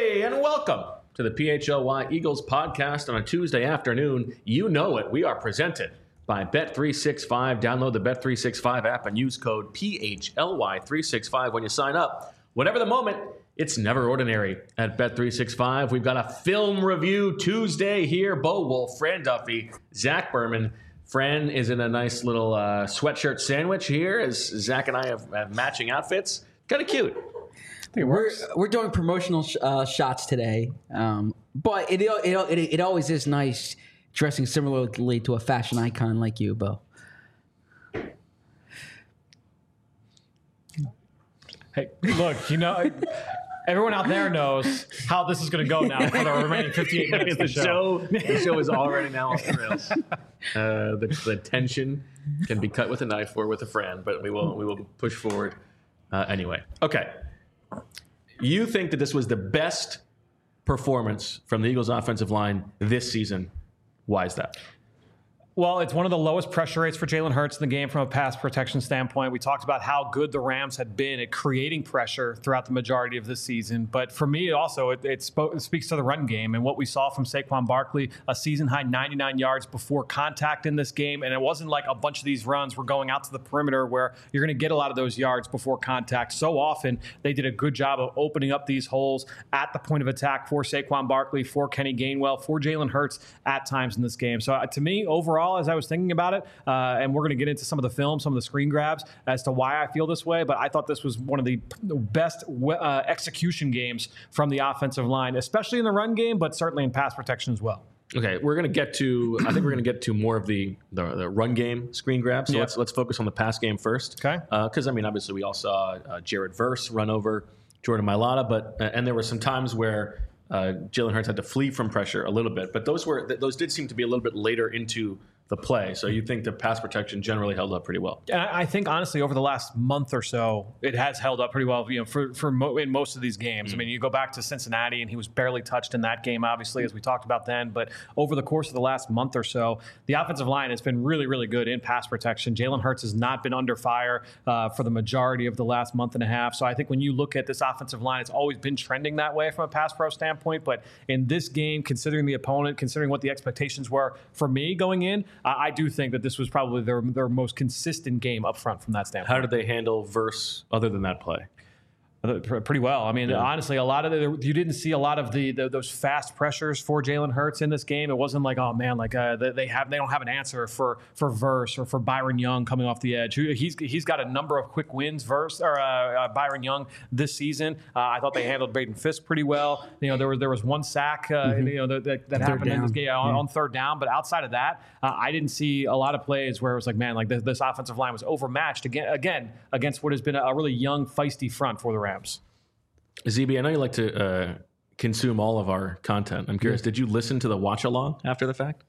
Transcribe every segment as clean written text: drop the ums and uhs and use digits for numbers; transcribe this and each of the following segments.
Hey, and welcome to the PHLY Eagles podcast on a Tuesday afternoon. You know it. We are presented by Bet365. Download the Bet365 app and use code PHLY365 when you sign up. Whatever the moment, it's never ordinary at Bet365. We've got a film review Tuesday here. Bo Wolf, Fran Duffy, Zach Berman. Fran is in a nice little sweatshirt sandwich here as Zach and I have matching outfits. Kind of cute. We're doing promotional shots today, but it always is nice dressing similarly to a fashion icon like you, Bo. Hey, look, everyone out there knows how this is going to go now for the remaining 58 minutes of the show. The show is already now off the rails. The tension can be cut with a knife or with a Fran, but we will push forward anyway. Okay. You think that this was the best performance from the Eagles offensive line this season. Why is that? Well, it's one of the lowest pressure rates for Jalen Hurts in the game from a pass protection standpoint. We talked about how good the Rams had been at creating pressure throughout the majority of this season. But for me, also, it speaks to the run game and what we saw from Saquon Barkley, a season-high 99 yards before contact in this game. And it wasn't like a bunch of these runs were going out to the perimeter where you're going to get a lot of those yards before contact. So often, they did a good job of opening up these holes at the point of attack for Saquon Barkley, for Kenny Gainwell, for Jalen Hurts at times in this game. So to me, overall, as I was thinking about it, and we're going to get into some of the film, some of the screen grabs as to why I feel this way, but I thought this was one of the best execution games from the offensive line, especially in the run game, but certainly in pass protection as well. Okay, I think we're going to get to more of the run game screen grab. So let's focus on the pass game first. Okay. Because obviously we all saw Jared Verse run over Jordan Mailata, but and there were some times where Jalen Hurts had to flee from pressure a little bit, but those did seem to be a little bit later into the play. So you think the pass protection generally held up pretty well? And I think, honestly, over the last month or so, it has held up pretty well, in most of these games. I mean, you go back to Cincinnati, and he was barely touched in that game, obviously, as we talked about then. But over the course of the last month or so, the offensive line has been really, really good in pass protection. Jalen Hurts has not been under fire for the majority of the last month and a half. So I think when you look at this offensive line, it's always been trending that way from a pass pro standpoint. But in this game, considering the opponent, considering what the expectations were for me going in, I do think that this was probably their most consistent game up front from that standpoint. How did they handle Verse other than that play? Pretty well. I mean, honestly, a lot of you didn't see a lot of those fast pressures for Jalen Hurts in this game. It wasn't like, oh man, like they don't have an answer for Verse or for Byron Young coming off the edge. He's got a number of quick wins. Byron Young this season. I thought they handled Braden Fisk pretty well. There was one sack that happened in this game on third down, but outside of that, I didn't see a lot of plays where it was like, man, like this offensive line was overmatched again against what has been a really young, feisty front for the Rams. ZB, I know you like to consume all of our content. I'm curious, did you listen to the watch along after the fact?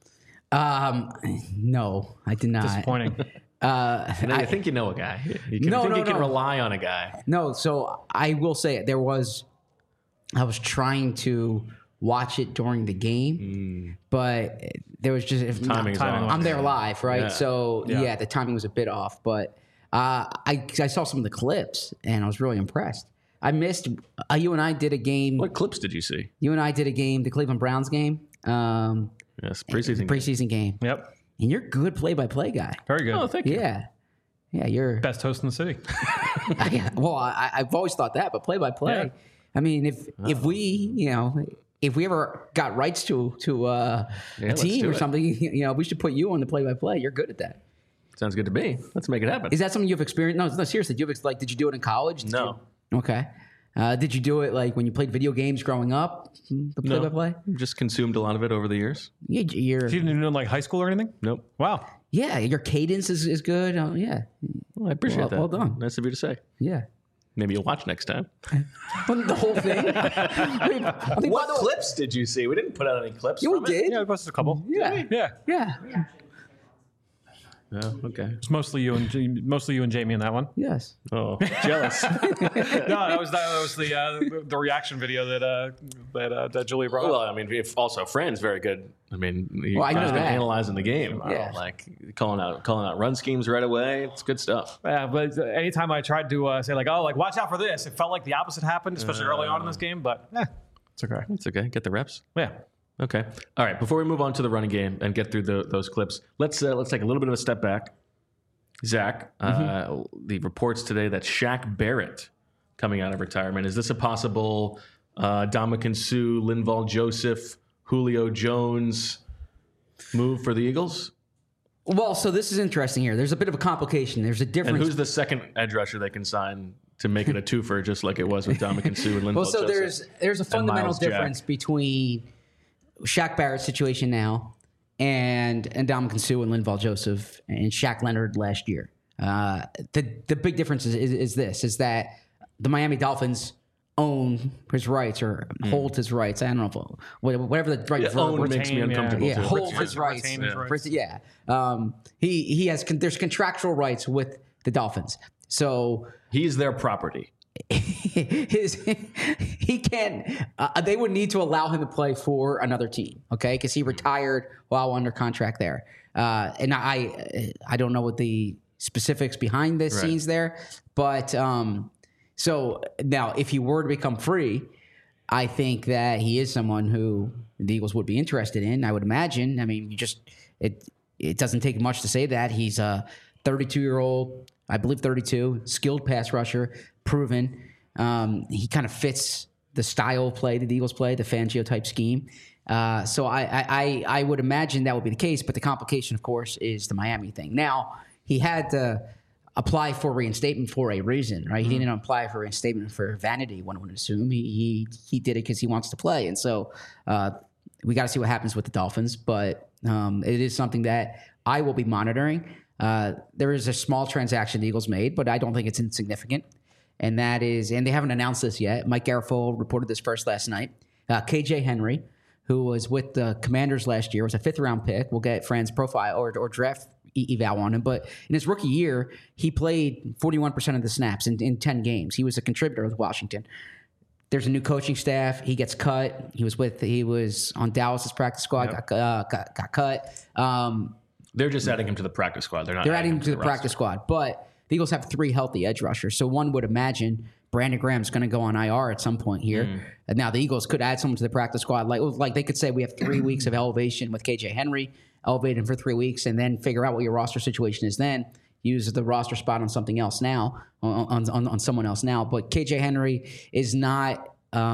No, I did not. Disappointing. I think you know a guy. You can rely on a guy. No, so I will say I was trying to watch it during the game, but there was just timing. I'm there live, right? Yeah. So the timing was a bit off, but I saw some of the clips and I was really impressed. I missed. You and I did a game. What clips did you see? You and I did a game, the Cleveland Browns game. Yes, preseason game. Yep. And you're a good play-by-play guy. Very good. Oh, thank you. Yeah, you're best host in the city. Well, I've always thought that, but play-by-play. Yeah. I mean, if we ever got rights to a team or something, we should put you on the play-by-play. You're good at that. Sounds good to me. Let's make it happen. Is that something you've experienced? No, seriously. Did you do it in college? No. Okay. Did you do it like when you played video games growing up? The play-by-play? Just consumed a lot of it over the years. You didn't even know like high school or anything? Nope. Wow. Yeah, your cadence is good. Yeah. Well, I appreciate that. Well done. Nice of you to say. Yeah. Maybe you'll watch next time. The whole thing. What clips did you see? We didn't put out any clips. Yeah, we did. Yeah, we posted a couple. Yeah. Oh, okay. It's mostly you and Jamie in that one. Yes. Oh, jealous. No, that was the reaction video that Julia brought up. Well, I mean, if also Fran's very good. I mean, I know that. analyzing the game. Yeah. Like calling out run schemes right away. It's good stuff. Yeah, but anytime I tried to say watch out for this, it felt like the opposite happened, especially early on in this game. But It's okay. It's okay. Get the reps. Yeah. Okay. All right. Before we move on to the running game and get through those clips, let's take a little bit of a step back. Zach, the reports today that Shaq Barrett coming out of retirement. Is this a possible Ndamukong Suh, Linval Joseph, Julio Jones move for the Eagles? Well, so this is interesting here. There's a bit of a complication. There's a difference. And who's the second edge rusher they can sign to make it a twofer, just like it was with Ndamukong Suh and Linval well, so Joseph? there's a fundamental difference between Shaq Barrett's situation now and Ndamukong Suh and Linval Joseph and Shaq Leonard last year. The big difference is that the Miami Dolphins own his rights or hold his rights. I don't know if whatever the right own makes me uncomfortable. Yeah, hold his rights. Yeah, he has there's contractual rights with the Dolphins, so he's their property. He can't. They would need to allow him to play for another team, okay? Because he retired while under contract there, and I don't know what the specifics behind the scenes there, but so now if he were to become free, I think that he is someone who the Eagles would be interested in. I would imagine. I mean, it doesn't take much to say that he's a 32-year-old, I believe 32, skilled pass rusher, proven. He kind of fits the style of play that the Eagles play, the Fangio type scheme. So I would imagine that would be the case. But the complication, of course, is the Miami thing. Now, he had to apply for reinstatement for a reason, right? He didn't apply for reinstatement for vanity, one would assume. He did it because he wants to play. And so we got to see what happens with the Dolphins. But it is something that I will be monitoring. There is a small transaction the Eagles made, but I don't think it's insignificant. And that is, and they haven't announced this yet. Mike Garafolo reported this first last night. KJ Henry, who was with the Commanders last year, was a 5th-round pick. We'll get Fran's profile or draft eval on him. But in his rookie year, he played 41% of the snaps in 10 games. He was a contributor with Washington. There's a new coaching staff. He gets cut. He was on Dallas's practice squad. Yep. Got cut. They're just adding him to the practice squad. They're adding him to the practice squad. But the Eagles have 3 healthy edge rushers. So one would imagine Brandon Graham's going to go on IR at some point here. And now the Eagles could add someone to the practice squad. Like they could say we have 3 weeks of elevation with KJ Henry, elevate him for 3 weeks, and then figure out what your roster situation is then. Use the roster spot on something else now, on someone else now. But KJ Henry is not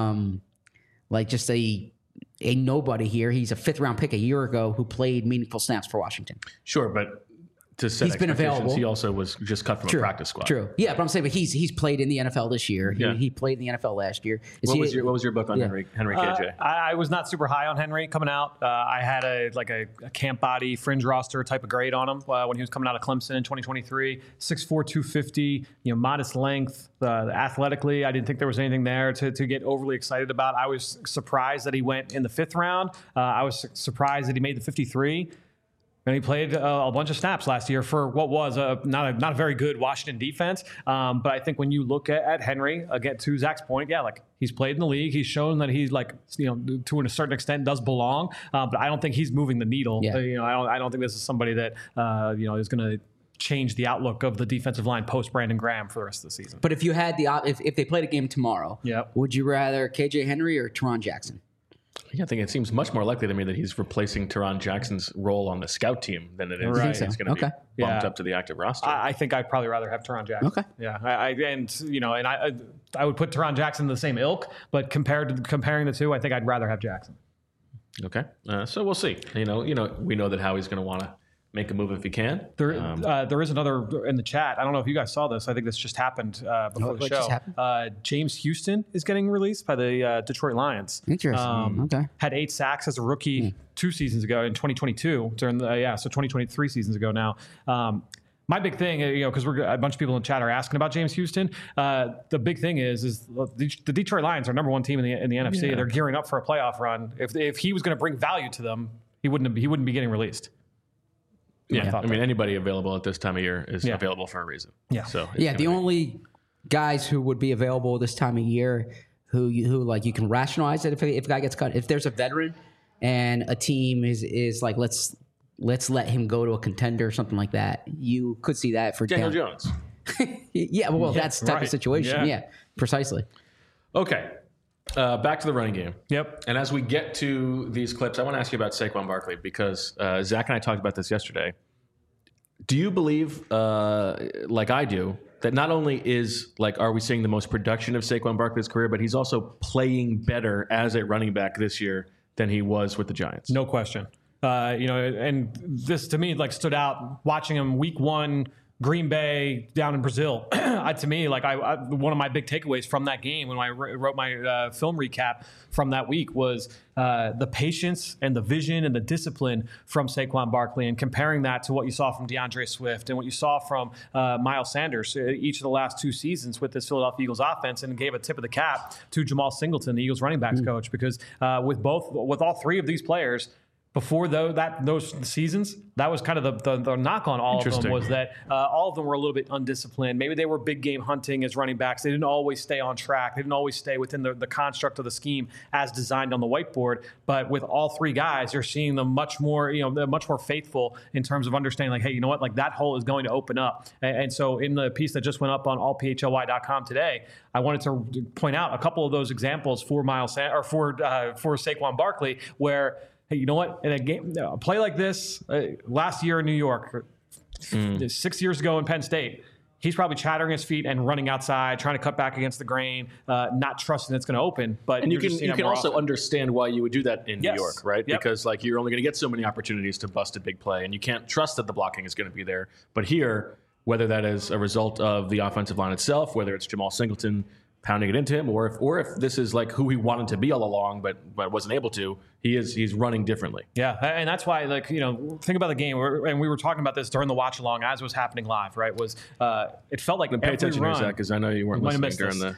like just a nobody here. He's a 5th-round pick a year ago who played meaningful snaps for Washington. Sure, but to set he's been available. He also was just cut from a practice squad. True. Yeah, but I'm saying, but he's played in the NFL this year. He played in the NFL last year. What was your book on Henry KJ? I was not super high on Henry coming out. I had a camp body fringe roster type of grade on him when he was coming out of Clemson in 2023. 6'4", 250. Modest length. Athletically, I didn't think there was anything there to get overly excited about. I was surprised that he went in the 5th round. I was surprised that he made the 53. And he played a bunch of snaps last year for what was not a very good Washington defense. But I think when you look at Henry, again, to Zach's point, he's played in the league. He's shown that he's to a certain extent does belong. But I don't think he's moving the needle. Yeah. I don't think this is somebody that is going to change the outlook of the defensive line post Brandon Graham for the rest of the season. But if you had if they played a game tomorrow, would you rather KJ Henry or Teron Jackson? I think it seems much more likely to me that he's replacing Teron Jackson's role on the scout team than it is he's going to be bumped up to the active roster. I think I'd probably rather have Teron Jackson. Okay. Yeah. I would put Teron Jackson in the same ilk, but comparing the two, I think I'd rather have Jackson. Okay. So we'll see. We know that Howie's going to want to make a move if he can. There is another in the chat. I don't know if you guys saw this. I think this just happened before the show. James Houston is getting released by the Detroit Lions. Interesting. Okay. Had 8 sacks as a rookie 2 seasons ago in 2022 during so 2023 seasons ago now. My big thing, because a bunch of people in the chat are asking about James Houston. The big thing is the Detroit Lions are number 1 team in the NFC. Yeah. They're gearing up for a playoff run. If he was going to bring value to them, he wouldn't be getting released. Yeah, I mean, anybody available at this time of year is available for a reason. Yeah. So the only guys who would be available this time of year who you can rationalize it if a guy gets cut, if there's a veteran and a team is like let's let him go to a contender or something like that, you could see that for Daniel Jones. That's the type of situation. Yeah, precisely. Okay. Back to the running game. Yep. And as we get to these clips, I want to ask you about Saquon Barkley because Zach and I talked about this yesterday. Do you believe, like I do, that not only are we seeing the most production of Saquon Barkley's career, but he's also playing better as a running back this year than he was with the Giants? No question. And this to me stood out watching him week 1, Green Bay down in Brazil. To me, one of my big takeaways from that game when I wrote my film recap from that week was the patience and the vision and the discipline from Saquon Barkley, and comparing that to what you saw from DeAndre Swift and what you saw from Miles Sanders each of the last 2 seasons with this Philadelphia Eagles offense, and gave a tip of the cap to Jamal Singleton, the Eagles running backs coach, because with all 3 of these players, before those seasons, that was kind of the knock on all of them, was that all of them were a little bit undisciplined. Maybe they were big game hunting as running backs. They didn't always stay on track. They didn't always stay within the construct of the scheme as designed on the whiteboard. But with all 3 guys, you're seeing them much more faithful in terms of understanding, hey, you know what, that hole is going to open up. And so in the piece that just went up on allphly.com today, I wanted to point out a couple of those examples for for Saquon Barkley, where, hey, you know what? In a play like this, last year in New York, 6 years ago in Penn State, he's probably chattering his feet and running outside, trying to cut back against the grain, not trusting it's going to open. But you can also understand why you would do that in New York, right? Yep. Because you're only going to get so many opportunities to bust a big play, and you can't trust that the blocking is going to be there. But here, whether that is a result of the offensive line itself, whether it's Jamal Singleton pounding it into him, or if this is who he wanted to be all along, but wasn't able to, he's running differently. Yeah, and that's why, think about the game, and we were talking about this during the watch along as it was happening live, right? It felt like pay attention here, Zach, because I know you weren't listening during the.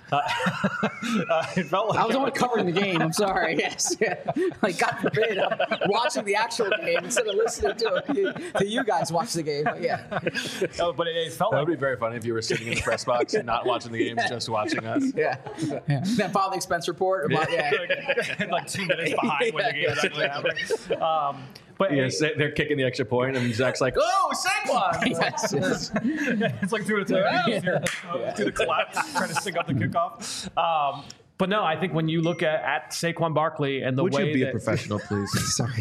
It felt like I was only covering the game. I'm sorry. Yes, God forbid, I'm watching the actual game instead of listening to you guys watch the game. But yeah, but it felt that would be very funny if you were sitting in the press box and not watching the game, just watching us. Yeah. Then file the expense report. About, 2 minutes behind when the game is actually happening. But yes, they're kicking the extra point, and Zach's like, "Oh, Saquon!" Yes. It's like doing do the collapse, trying to sync up the kickoff. But no, I think when you look at Saquon Barkley and the way Would you be a professional, please? Sorry.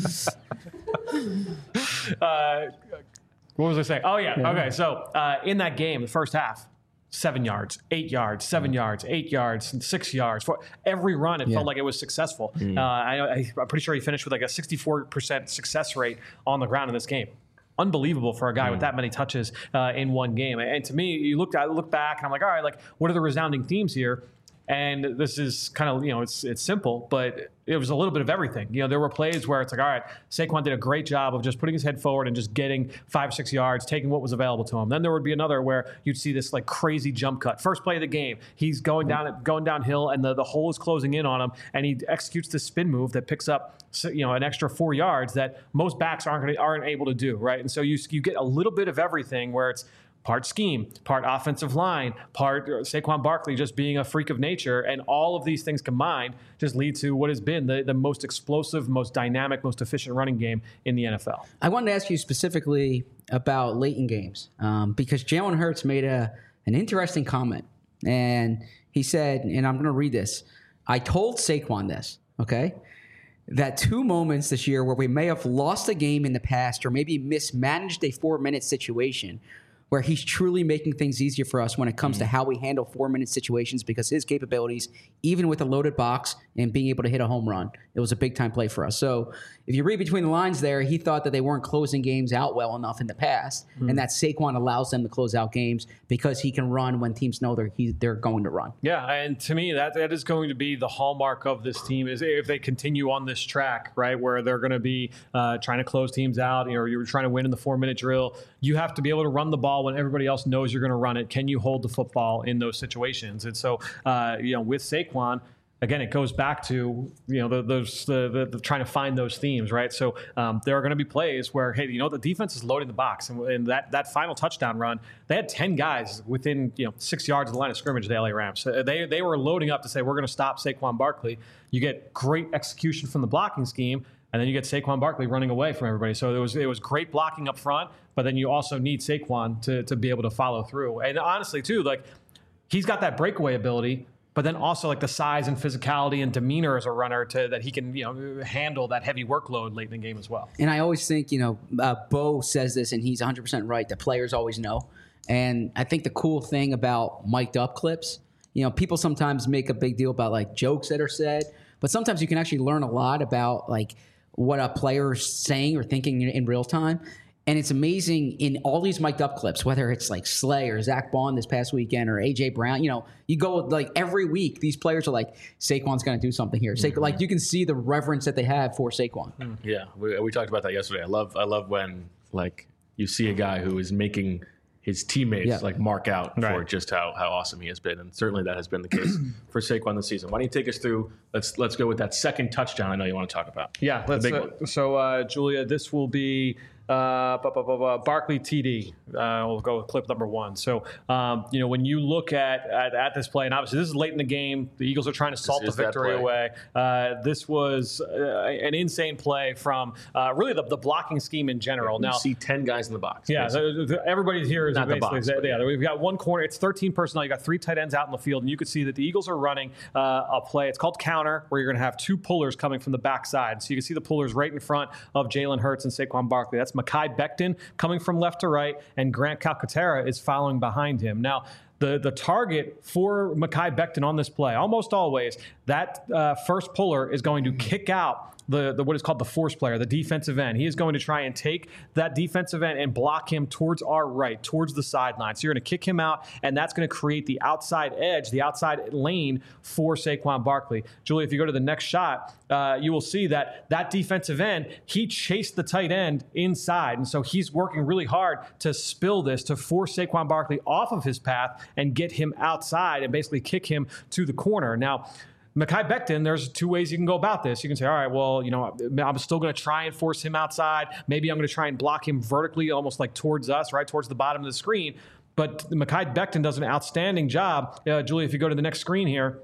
What was I saying? Oh yeah. Okay. So in that game, the first half, 7 yards, 8 yards, 7 yards, 8 yards, and 6 yards. For every run, it felt like it was successful. I'm pretty sure he finished with a 64% success rate on the ground in this game. Unbelievable for a guy with that many touches in one game. And to me, I look back and I'm like, all right, what are the resounding themes here? And this is kind of, it's simple, but it was a little bit of everything. There were plays where it's all right, Saquon did a great job of just putting his head forward and just getting 5 or 6 yards, taking what was available to him. Then there would be another where you'd see this crazy jump cut. First play of the game, he's going downhill and the hole is closing in on him, and he executes this spin move that picks up an extra 4 yards that most backs aren't able to do, right? And so you get a little bit of everything where it's part scheme, part offensive line, part Saquon Barkley just being a freak of nature. And all of these things combined just lead to what has been the most explosive, most dynamic, most efficient running game in the NFL. I wanted to ask you specifically about late in games because Jalen Hurts made an interesting comment. And he said, and I'm going to read this, I told Saquon this, okay? That 2 moments this year where we may have lost a game in the past or maybe mismanaged a 4-minute situation where he's truly making things easier for us when it comes to how we handle 4-minute situations because his capabilities, even with a loaded box and being able to hit a home run, it was a big-time play for us. So if you read between the lines there, he thought that they weren't closing games out well enough in the past and that Saquon allows them to close out games because he can run when teams know they're going to run. Yeah, and to me, that is going to be the hallmark of this team is if they continue on this track, right, where they're going to be trying to close teams out, or you're trying to win in the 4-minute drill. You have to be able to run the ball when everybody else knows you're going to run it. Can you hold the football in those situations? And so, with Saquon, again, it goes back to the trying to find those themes, right? So there are going to be plays where, hey, the defense is loading the box, and that final touchdown run, they had 10 guys within 6 yards of the line of scrimmage. The LA Rams, they were loading up to say we're going to stop Saquon Barkley. You get great execution from the blocking scheme. And then you get Saquon Barkley running away from everybody. So it was great blocking up front, but then you also need Saquon to be able to follow through. And honestly, too, he's got that breakaway ability, but then also like the size and physicality and demeanor as a runner that he can, handle that heavy workload late in the game as well. And I always think, Bo says this, and he's 100% right, that players always know. And I think the cool thing about mic'd up clips, people sometimes make a big deal about like jokes that are said, but sometimes you can actually learn a lot about like what a player is saying or thinking in real time. And it's amazing in all these mic'd up clips, whether it's like Slay or Zach Bond this past weekend or A.J. Brown, you go like every week, these players are like, Saquon's going to do something here. Like you can see the reverence that they have for Saquon. Yeah, we talked about that yesterday. I love when like you see a guy who is making his teammates like mark out for just how awesome he has been. And certainly that has been the case for Saquon this season. Why don't you take us through, let's go with that second touchdown I know you want to talk about. Yeah, so Julia, this will be Barkley TD. We'll go with clip number 1. So, when you look at this play, and obviously this is late in the game, the Eagles are trying to salt the victory away. This was an insane play from really the blocking scheme in general. Now, you see 10 guys in the box. Yeah, everybody here is not the box. We've got one corner. It's 13 personnel. You got 3 tight ends out in the field, and you can see that the Eagles are running a play. It's called counter, where you're going to have 2 pullers coming from the backside. So you can see the pullers right in front of Jalen Hurts and Saquon Barkley. That's Mekhi Becton coming from left to right, and Grant Calcaterra is following behind him. Now, the target for Mekhi Becton on this play, almost always, that first puller is going to kick out the what is called the force player, the defensive end. He is going to try and take that defensive end and block him towards our right, towards the sideline. So you're going to kick him out, and that's going to create the outside edge, the outside lane for Saquon Barkley. Julie, if you go to the next shot, you will see that defensive end, he chased the tight end inside. And so he's working really hard to spill this, to force Saquon Barkley off of his path and get him outside and basically kick him to the corner. Now, Mekhi Becton, there's 2 ways you can go about this. You can say, all right, well, I'm still going to try and force him outside. Maybe I'm going to try and block him vertically, almost like towards us, right, towards the bottom of the screen. But Mekhi Becton does an outstanding job. Julie, if you go to the next screen here,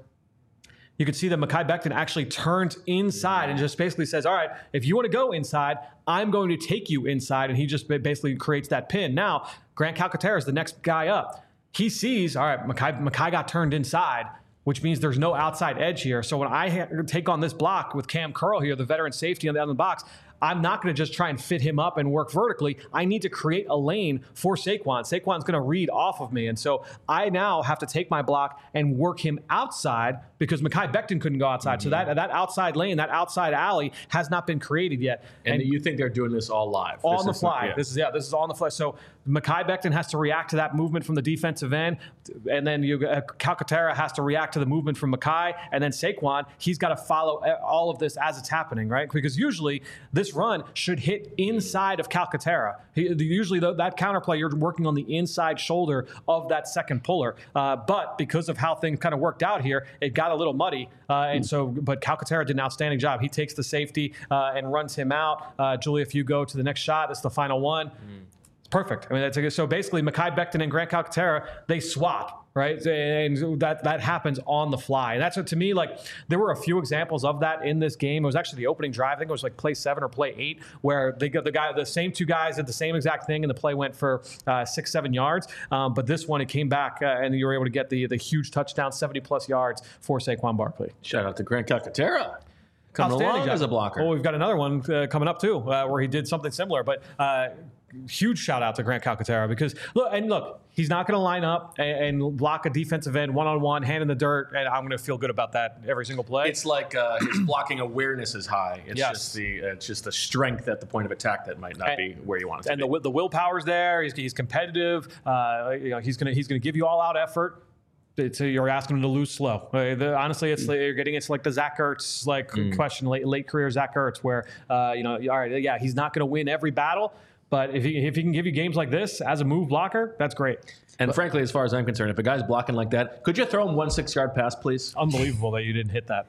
you can see that Mekhi Becton actually turns inside and just basically says, all right, if you want to go inside, I'm going to take you inside. And he just basically creates that pin. Now, Grant Calcaterra is the next guy up. He sees, all right, Mekhi got turned inside, which means there's no outside edge here. So when I take on this block with Cam Curl here, the veteran safety on the end of the box, I'm not going to just try and fit him up and work vertically. I need to create a lane for Saquon. Saquon's going to read off of me. And so I now have to take my block and work him outside because Mekhi Becton couldn't go outside. So that outside lane, that outside alley has not been created yet. And you think they're doing this all live? On the fly. This is all on the fly. So Mekhi Becton has to react to that movement from the defensive end. And then Calcaterra has to react to the movement from Mekhi. And then Saquon, he's got to follow all of this as it's happening, right? Because usually this run should hit inside of Calcaterra. Usually that counterplay, you're working on the inside shoulder of that second puller. But because of how things kind of worked out here, it got a little muddy. But Calcaterra did an outstanding job. He takes the safety and runs him out. Julie, if you go to the next shot, it's the final one. It's perfect. I mean, so basically Mekhi Becton and Grant Calcaterra, they swap. Right, and that happens on the fly, and that's what to me, like, there were a few examples of that in this game. It was actually the opening drive. I think it was like play 7 or play 8, where they got the same 2 guys did the same exact thing, and the play went for 6-7 yards. But this one, it came back, and you were able to get the huge touchdown, 70+ yards for Saquon Barkley. Shout out to Grant Calcaterra. Coming along as a blocker. Oh, we've got another one coming up too, where he did something similar. But huge shout out to Grant Calcaterra because look, he's not going to line up and block a defensive end one-on-one, hand in the dirt, and I'm going to feel good about that every single play. It's like his blocking awareness is high. It's just the strength at the point of attack that might not be where you want it to be. And the willpower's there. He's competitive. He's going to give you all-out effort. You're asking him to lose slow. Honestly, you're getting it's like the Zach Ertz question, late career Zach Ertz, where all right, yeah, he's not going to win every battle, but if he can give you games like this as a move blocker, that's great. And frankly, as far as I'm concerned, if a guy's blocking like that, could you throw him 1 6-yard pass, please? Unbelievable that you didn't hit that.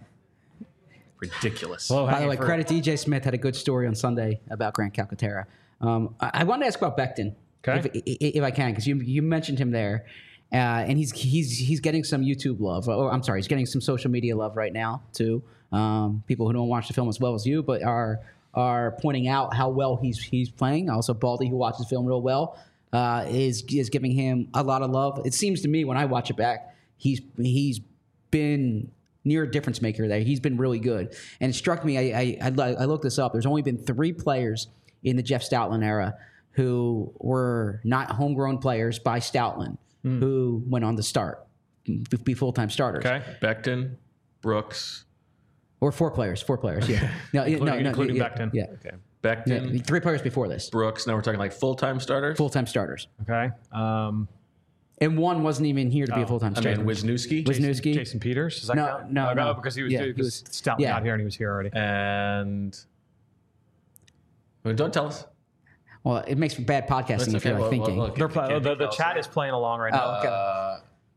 Ridiculous. By the way, credit DJ Smith had a good story on Sunday about Grant Calcaterra. I wanted to ask about Becton, if I can, because you mentioned him there. And he's getting some YouTube love. He's getting some social media love right now too. People who don't watch the film as well as you, but are pointing out how well he's playing. Also, Baldy, who watches the film real well, is giving him a lot of love. It seems to me when I watch it back, he's been near a difference maker there. He's been really good. And it struck me, I looked this up. There's only been 3 players in the Jeff Stoutland era who were not homegrown players by Stoutland who went on to start, be full-time starters. Okay. Becton, Brooks. Or 4 players, yeah. Including Becton. Yeah. Okay. Becton, 3 players before this. Brooks. Now we're talking like full-time starters? Full-time starters. Okay. And one wasn't even here to be a full-time starter. Wisniewski. Jason Peters. Does that count? No. Because he was Stoutland out here and he was here already. And don't tell us. Well, it makes for bad podcasting That's if you're okay. thinking. The chat is playing along right now. Okay.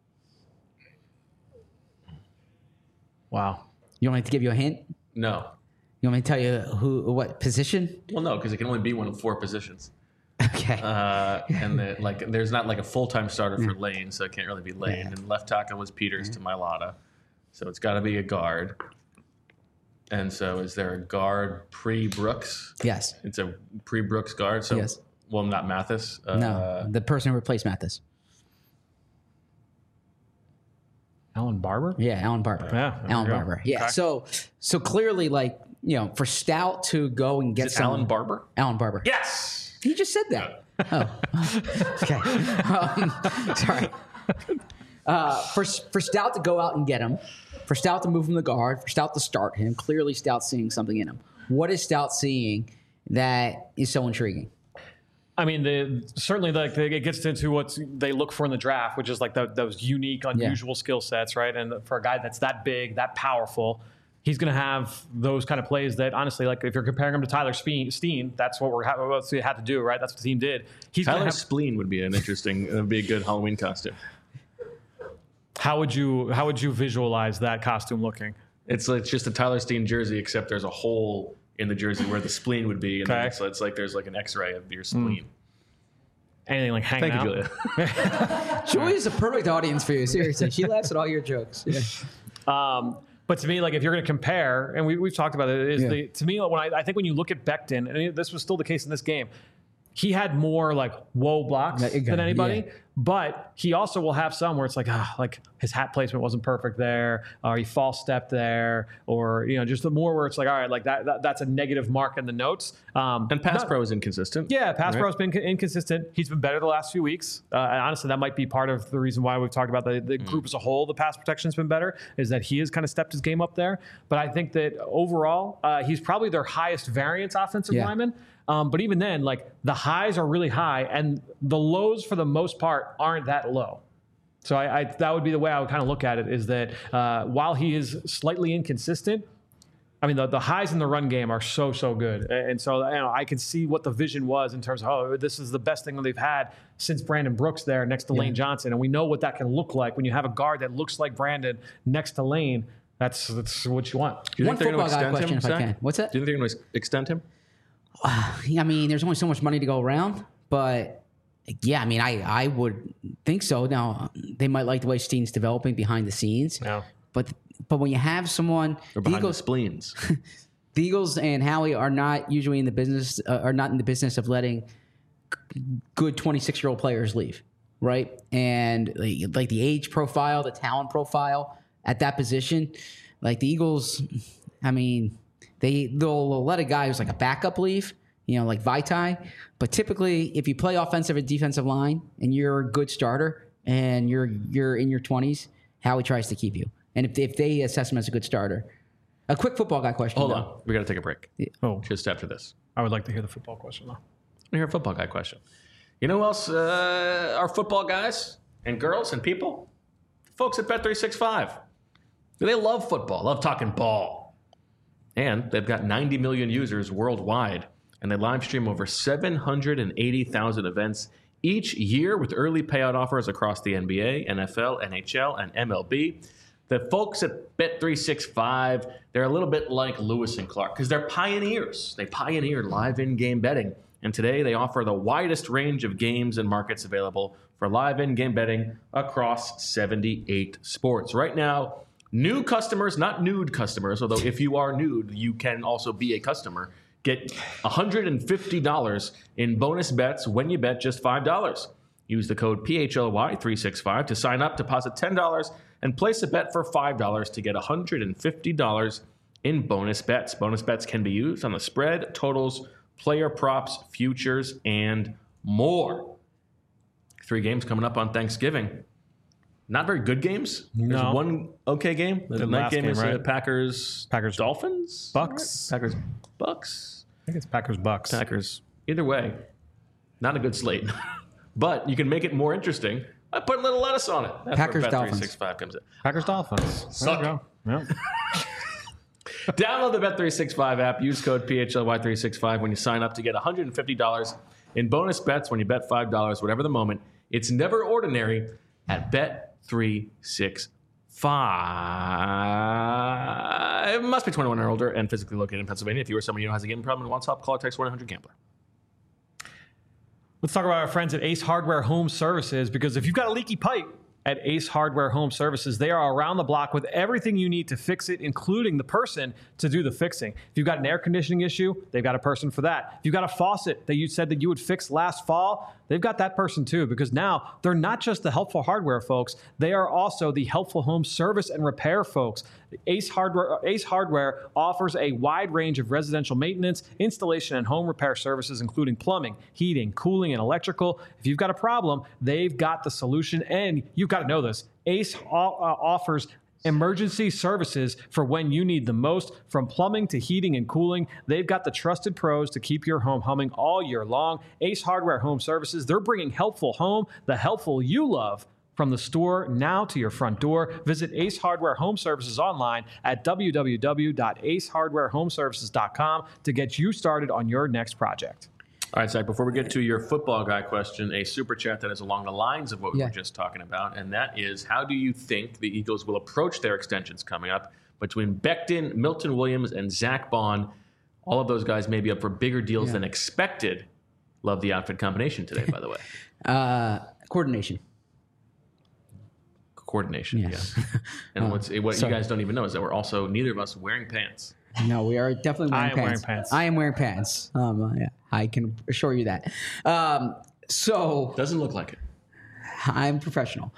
Wow. You want me to give you a hint? No. You want me to tell you what position? Well, no, because it can only be one of 4 positions. Okay. And there's not like a full-time starter for Lane, so it can't really be Lane. Yeah. And left tackle was Peters to Mailata, so it's got to be a guard. And so, is there a guard pre-Brooks? Yes. It's a pre-Brooks guard. So, Yes. Well, not Mathis. No, the person who replaced Mathis. Alan Barber? Yeah, Alan Barber. Yeah, there Alan we go. Barber. Yeah. Okay. So clearly, for Stout to go and get Is it Alan Barber? Alan Barber. Yes. He just said that. Oh. Okay. Sorry. For Stout to go out and get him, for Stout to move him to guard, for Stout to start him, clearly Stout's seeing something in him. What is Stout seeing that is so intriguing? I mean, certainly it gets into what they look for in the draft, which is like those unique, unusual skill sets, right? And for a guy that's that big, that powerful, he's going to have those kind of plays that, honestly, like if you're comparing him to Tyler Steen, that's what we had to do, right? That's what the team did. Tyler Spleen would be a good Halloween costume. How would you visualize that costume looking? It's just a Tyler Steen jersey, except there's a hole in the jersey where the spleen would be, and then it's like there's like an X-ray of your spleen. Anything like hanging out? Thank you, Julia. Julia's a perfect audience for you. Seriously, she laughs at all your jokes. Yeah. But to me, like if you're going to compare, and we've talked about it, to me, I think when you look at Becton, and this was still the case in this game, he had more like whoa blocks than anybody, but he also will have some where it's like his hat placement wasn't perfect there, or he false stepped there, or just the more where it's like, all right, like that's a negative mark in the notes. And pass pro is inconsistent. Yeah, pass pro has been inconsistent. He's been better the last few weeks. And honestly, that might be part of the reason why we've talked about the group as a whole. The pass protection's been better, is that he has kind of stepped his game up there. But I think that overall, he's probably their highest variance offensive lineman. But even then, like the highs are really high, and the lows for the most part aren't that low. So that would be the way I would kind of look at it, is that while he is slightly inconsistent, I mean, the highs in the run game are so good. And so I can see what the vision was in terms of, this is the best thing that they've had since Brandon Brooks there next to Lane Johnson. And we know what that can look like when you have a guard that looks like Brandon next to Lane. That's what you want. Do you One think they're going football to guy extend question, him, if I Zach? can. What's that? Do you think they're going to extend him? I mean, there's only so much money to go around, but yeah, I mean, I would think so. Now, they might like the way Steen's developing behind the scenes, but when you have someone, Or behind the spleens? the Eagles and Howie are not usually in the business, of letting good 26-year-old players leave, right? And like the age profile, the talent profile at that position, like the Eagles, I mean, they'll let a guy who's like a backup leave, like Vaitai. But typically, if you play offensive and defensive line and you're a good starter and you're in your 20s, Howie tries to keep you. And if they assess him as a good starter. A quick football guy question. Hold on. We got to take a break. Oh, Just after this. I would like to hear the football question, though. I want to hear a football guy question. You know who else are football guys and girls and people? Folks at Bet365. They love football, love talking ball. And they've got 90 million users worldwide. And they live stream over 780,000 events each year with early payout offers across the NBA, NFL, NHL, and MLB. The folks at Bet365, they're a little bit like Lewis and Clark because they're pioneers. They pioneered live in-game betting. And today they offer the widest range of games and markets available for live in-game betting across 78 sports. Right now, new customers, not nude customers, although if you are nude, you can also be a customer, get $150 in bonus bets when you bet just $5. Use the code PHLY365 to sign up, deposit $10, and place a bet for $5 to get $150 in bonus bets. Bonus bets can be used on the spread, totals, player props, futures, and more. 3 games coming up on Thanksgiving. Not very good games. No. There's one okay game. The night game is right? Packers Dolphins? Bucks. Right? Packers Bucks? I think it's Packers-Bucks. Packers. Either way, not a good slate. But you can make it more interesting. I put a little lettuce on it. That's Packers where Dolphins. Bet365 comes in. Packers-Dolphins. Suck. There you go. Yep. Download the Bet365 app. Use code PHLY365 when you sign up to get $150 in bonus bets when you bet $5, whatever the moment. It's never ordinary at Bet365. It must be 21 or older and physically located in Pennsylvania. If you or someone you know has a gambling problem and wants help, call or text 1-800-GAMBLER. Let's talk about our friends at Ace Hardware Home Services, because if you've got a leaky pipe at Ace Hardware Home Services, they are around the block with everything you need to fix it, including the person to do the fixing. If you've got an air conditioning issue, they've got a person for that. If you've got a faucet that you said that you would fix last fall, they've got that person too, because now they're not just the helpful hardware folks, they are also the helpful home service and repair folks. Ace Hardware offers a wide range of residential maintenance, installation, and home repair services, including plumbing, heating, cooling, and electrical. If you've got a problem, they've got the solution, and you've got to know this. Ace offers emergency services for when you need the most. From plumbing to heating and cooling, they've got the trusted pros to keep your home humming all year long. Ace Hardware Home Services, they're bringing helpful home, the helpful you love, from the store now to your front door. Visit Ace Hardware Home Services online at www.acehardwarehomeservices.com to get you started on your next project. All right, Zach, before we get to your football guy question, a super chat that is along the lines of what we were just talking about, and that is, how do you think the Eagles will approach their extensions coming up between Becton, Milton Williams, and Zach Bond? All of those guys may be up for bigger deals than expected. Love the outfit combination today, by the way. Coordination. Yeah. And what you guys don't even know is that we're also, neither of us, wearing pants. No, we are definitely wearing pants. I am wearing pants. Yeah, I can assure you that. So doesn't look like it. I'm professional.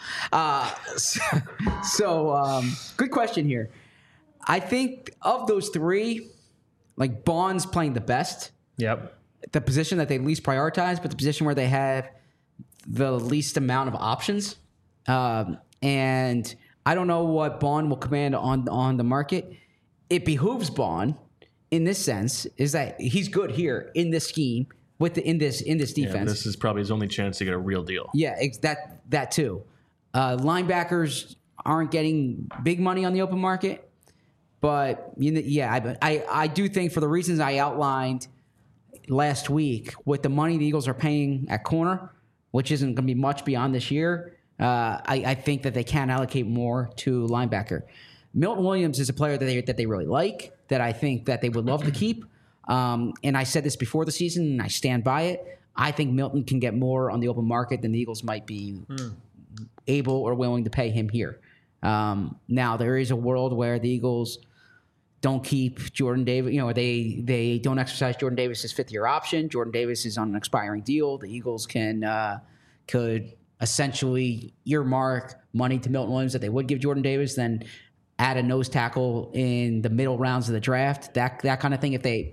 Good question here. I think of those 3, like Bond's playing the best. Yep. The position that they least prioritize, but the position where they have the least amount of options. And I don't know what Bond will command on the market. It behooves Bond in this sense is that he's good here in this scheme in this defense. Yeah, this is probably his only chance to get a real deal. Yeah, that too. Linebackers aren't getting big money on the open market, but I do think for the reasons I outlined last week, with the money the Eagles are paying at corner, which isn't going to be much beyond this year, I think that they can allocate more to linebacker. Milton Williams is a player that they really like, that I think that they would love to keep. And I said this before the season, and I stand by it. I think Milton can get more on the open market than the Eagles might be able or willing to pay him here. Now, there is a world where the Eagles don't keep Jordan Davis. They don't exercise Jordan Davis's 5th-year option. Jordan Davis is on an expiring deal. The Eagles could essentially earmark money to Milton Williams that they would give Jordan Davis, then add a nose tackle in the middle rounds of the draft, that kind of thing.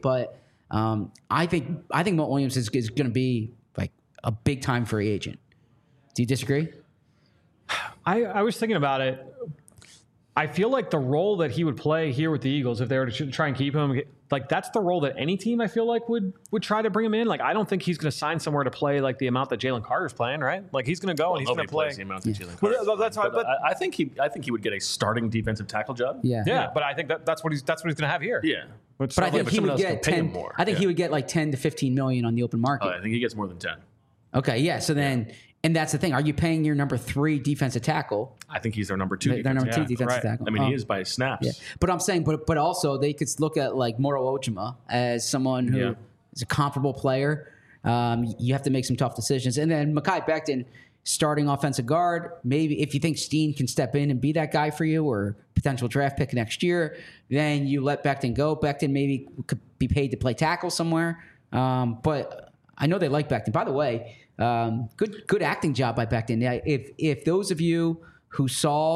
I think Milton Williams is going to be like a big time free agent. Do you disagree? I was thinking about it. I feel like the role that he would play here with the Eagles, if they were to try and keep him, like that's the role that any team I feel like would try to bring him in. Like I don't think he's going to sign somewhere to play like the amount that Jalen Carter's playing, right? Like he's going to go and he's going to play the amount that Jalen Carter. Well, that's right. But I think he would get a starting defensive tackle job. Yeah. But I think that's what he's going to have here. Yeah. But I think he would get 10 more. I think he would get like 10 to 15 million on the open market. Oh, I think he gets more than 10. Okay, yeah. So then, and that's the thing. Are you paying your number 3 defensive tackle? I think he's their number 2. Their number 2 defensive tackle. I mean, he is by snaps. Yeah. But I'm saying, but also they could look at like Moro Ojima as someone who is a comparable player. You have to make some tough decisions. And then Mekhi Becton, starting offensive guard. Maybe if you think Steen can step in and be that guy for you, or potential draft pick next year, then you let Becton go. Becton maybe could be paid to play tackle somewhere. But I know they like Becton. By the way, good acting job by Becton. If those of you who saw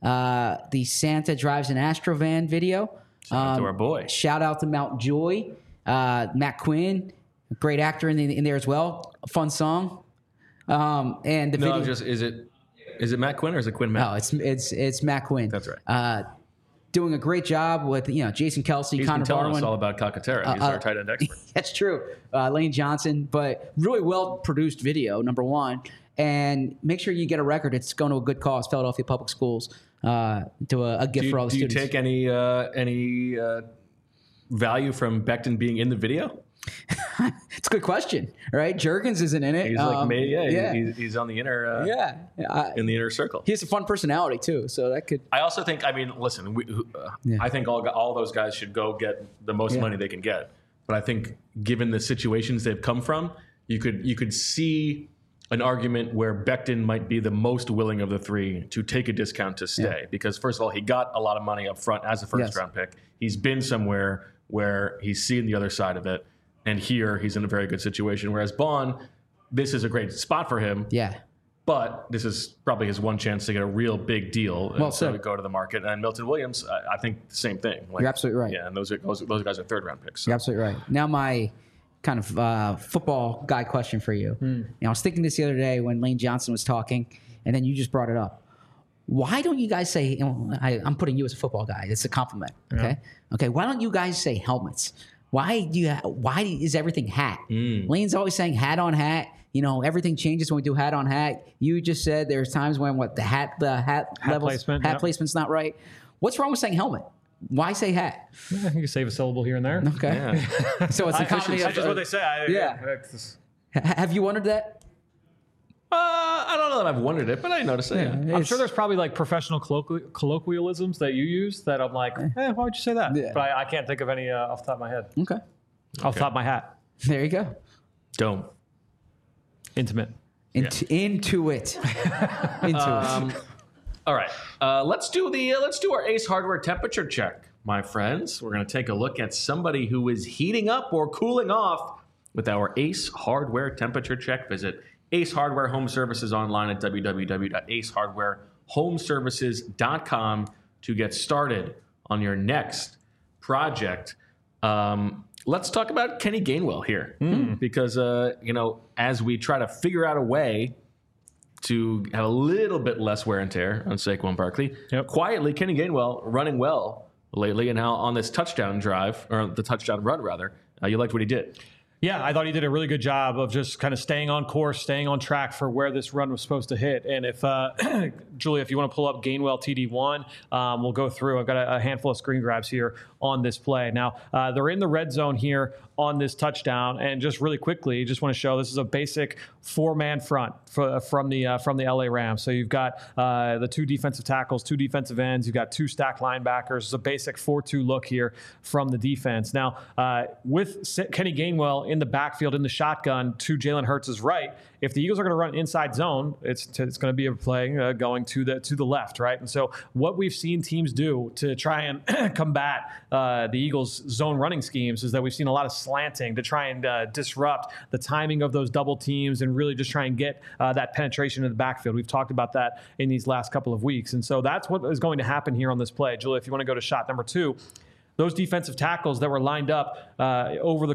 the Santa Drives an Astrovan video. To our boy. Shout out to Mount Joy. Matt Quinn, great actor in there as well. A fun song. And the video. Is it Matt Quinn or is it Quinn Matt? No, it's Matt Quinn. That's right. Doing a great job with Jason Kelsey, He's Connor been telling Barwin. us all about Calcaterra. He's our tight end expert. That's true. Lane Johnson, but really well produced video. Number one, and make sure you get a record. It's going to a good cause. Philadelphia Public Schools to a gift for all the students. Do you take any value from Becton being in the video? It's a good question, right? Juergens isn't in it. He's like me. Yeah. He's on the inner. In the inner circle. He has a fun personality too, so that could. I also think. I mean, listen. I think all those guys should go get the most money they can get. But I think, given the situations they've come from, you could see an argument where Becton might be the most willing of the three to take a discount to stay. Because first of all, he got a lot of money up front as a first round pick. He's been somewhere where he's seen the other side of it. And here he's in a very good situation. Whereas Bond, this is a great spot for him. Yeah. But this is probably his one chance to get a real big deal. Well, so go to the market. And Milton Williams, I think the same thing. You're absolutely right. Yeah, and those guys are third round picks. So. You're absolutely right. Now my kind of football guy question for you. I was thinking this the other day when Lane Johnson was talking, and then you just brought it up. Why don't you guys say? I'm putting you as a football guy. It's a compliment. Okay. Yeah. Okay. Why don't you guys say helmets? Why is everything hat? Lane's always saying hat on hat. Everything changes when we do hat on hat. You just said there's times when the hat placement's not right. What's wrong with saying helmet? Why say hat? Yeah, you can save a syllable here and there. Okay. Yeah. So it's that's just what they say. Have you wondered that? I don't know that I've wondered it, but I noticed it. Yeah. I'm sure there's probably like professional colloquialisms that you use that I'm like, why would you say that? Yeah. But I can't think of any off the top of my head. Okay. Off the top of my hat. There you go. Dome. Intimate. Into it. All right. Let's do our Ace Hardware temperature check, my friends. We're going to take a look at somebody who is heating up or cooling off with our Ace Hardware temperature check. Visit Ace Hardware Home Services online at www.acehardwarehomeservices.com to get started on your next project. Let's talk about Kenny Gainwell here because, as we try to figure out a way to have a little bit less wear and tear on Saquon Barkley, quietly, Kenny Gainwell running well lately, and now on this touchdown drive, or the touchdown run rather, you liked what he did. Yeah, I thought he did a really good job of just kind of staying on course, staying on track for where this run was supposed to hit. And if, Julia, if you want to pull up Gainwell TD1, we'll go through. I've got a handful of screen grabs here on this play. Now, they're in the red zone here on this touchdown. And just really quickly, just want to show this is a basic four-man front from the LA Rams. So you've got the two defensive tackles, two defensive ends. You've got two stacked linebackers. It's a basic 4-2 look here from the defense. Now, with Kenny Gainwell in the backfield in the shotgun to Jalen Hurts' right, if the Eagles are going to run inside zone, it's going to be a play going to the left, right? And so what we've seen teams do to try and combat the Eagles' zone running schemes is that we've seen a lot of slanting to try and disrupt the timing of those double teams and really just try and get that penetration in the backfield. We've talked about that in these last couple of weeks. And so that's what is going to happen here on this play. Julia, if you want to go to shot number 2, those defensive tackles that were lined up over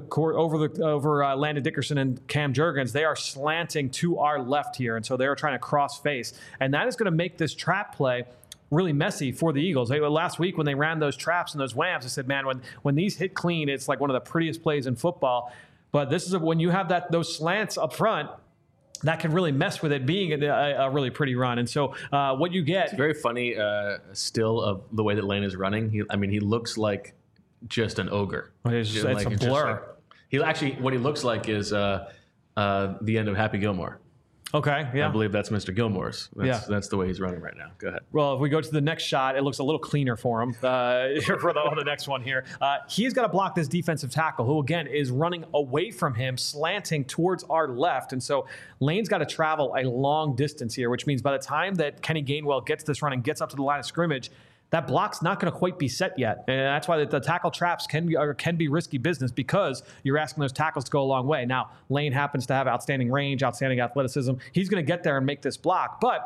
Landon Dickerson and Cam Juergens, they are slanting to our left here. And so they are trying to cross face. And that is going to make this trap play really messy for the Eagles. Last week when they ran those traps and those whams, I said, man, when these hit clean, it's like one of the prettiest plays in football. But this is when you have those slants up front, that can really mess with it being a really pretty run. And so what you get... It's very funny still of the way that Lane is running. He looks like just an ogre. It's a blur. What he looks like is the end of Happy Gilmore. Okay, yeah. I believe that's Mr. Gilmore's. That's the way he's running right now. Go ahead. Well, if we go to the next shot, it looks a little cleaner for him for the next one here. He's got to block this defensive tackle, who, again, is running away from him, slanting towards our left. And so Lane's got to travel a long distance here, which means by the time that Kenny Gainwell gets this run and gets up to the line of scrimmage, that block's not going to quite be set yet. And that's why the tackle traps can be risky business, because you're asking those tackles to go a long way. Now, Lane happens to have outstanding range, outstanding athleticism. He's going to get there and make this block. But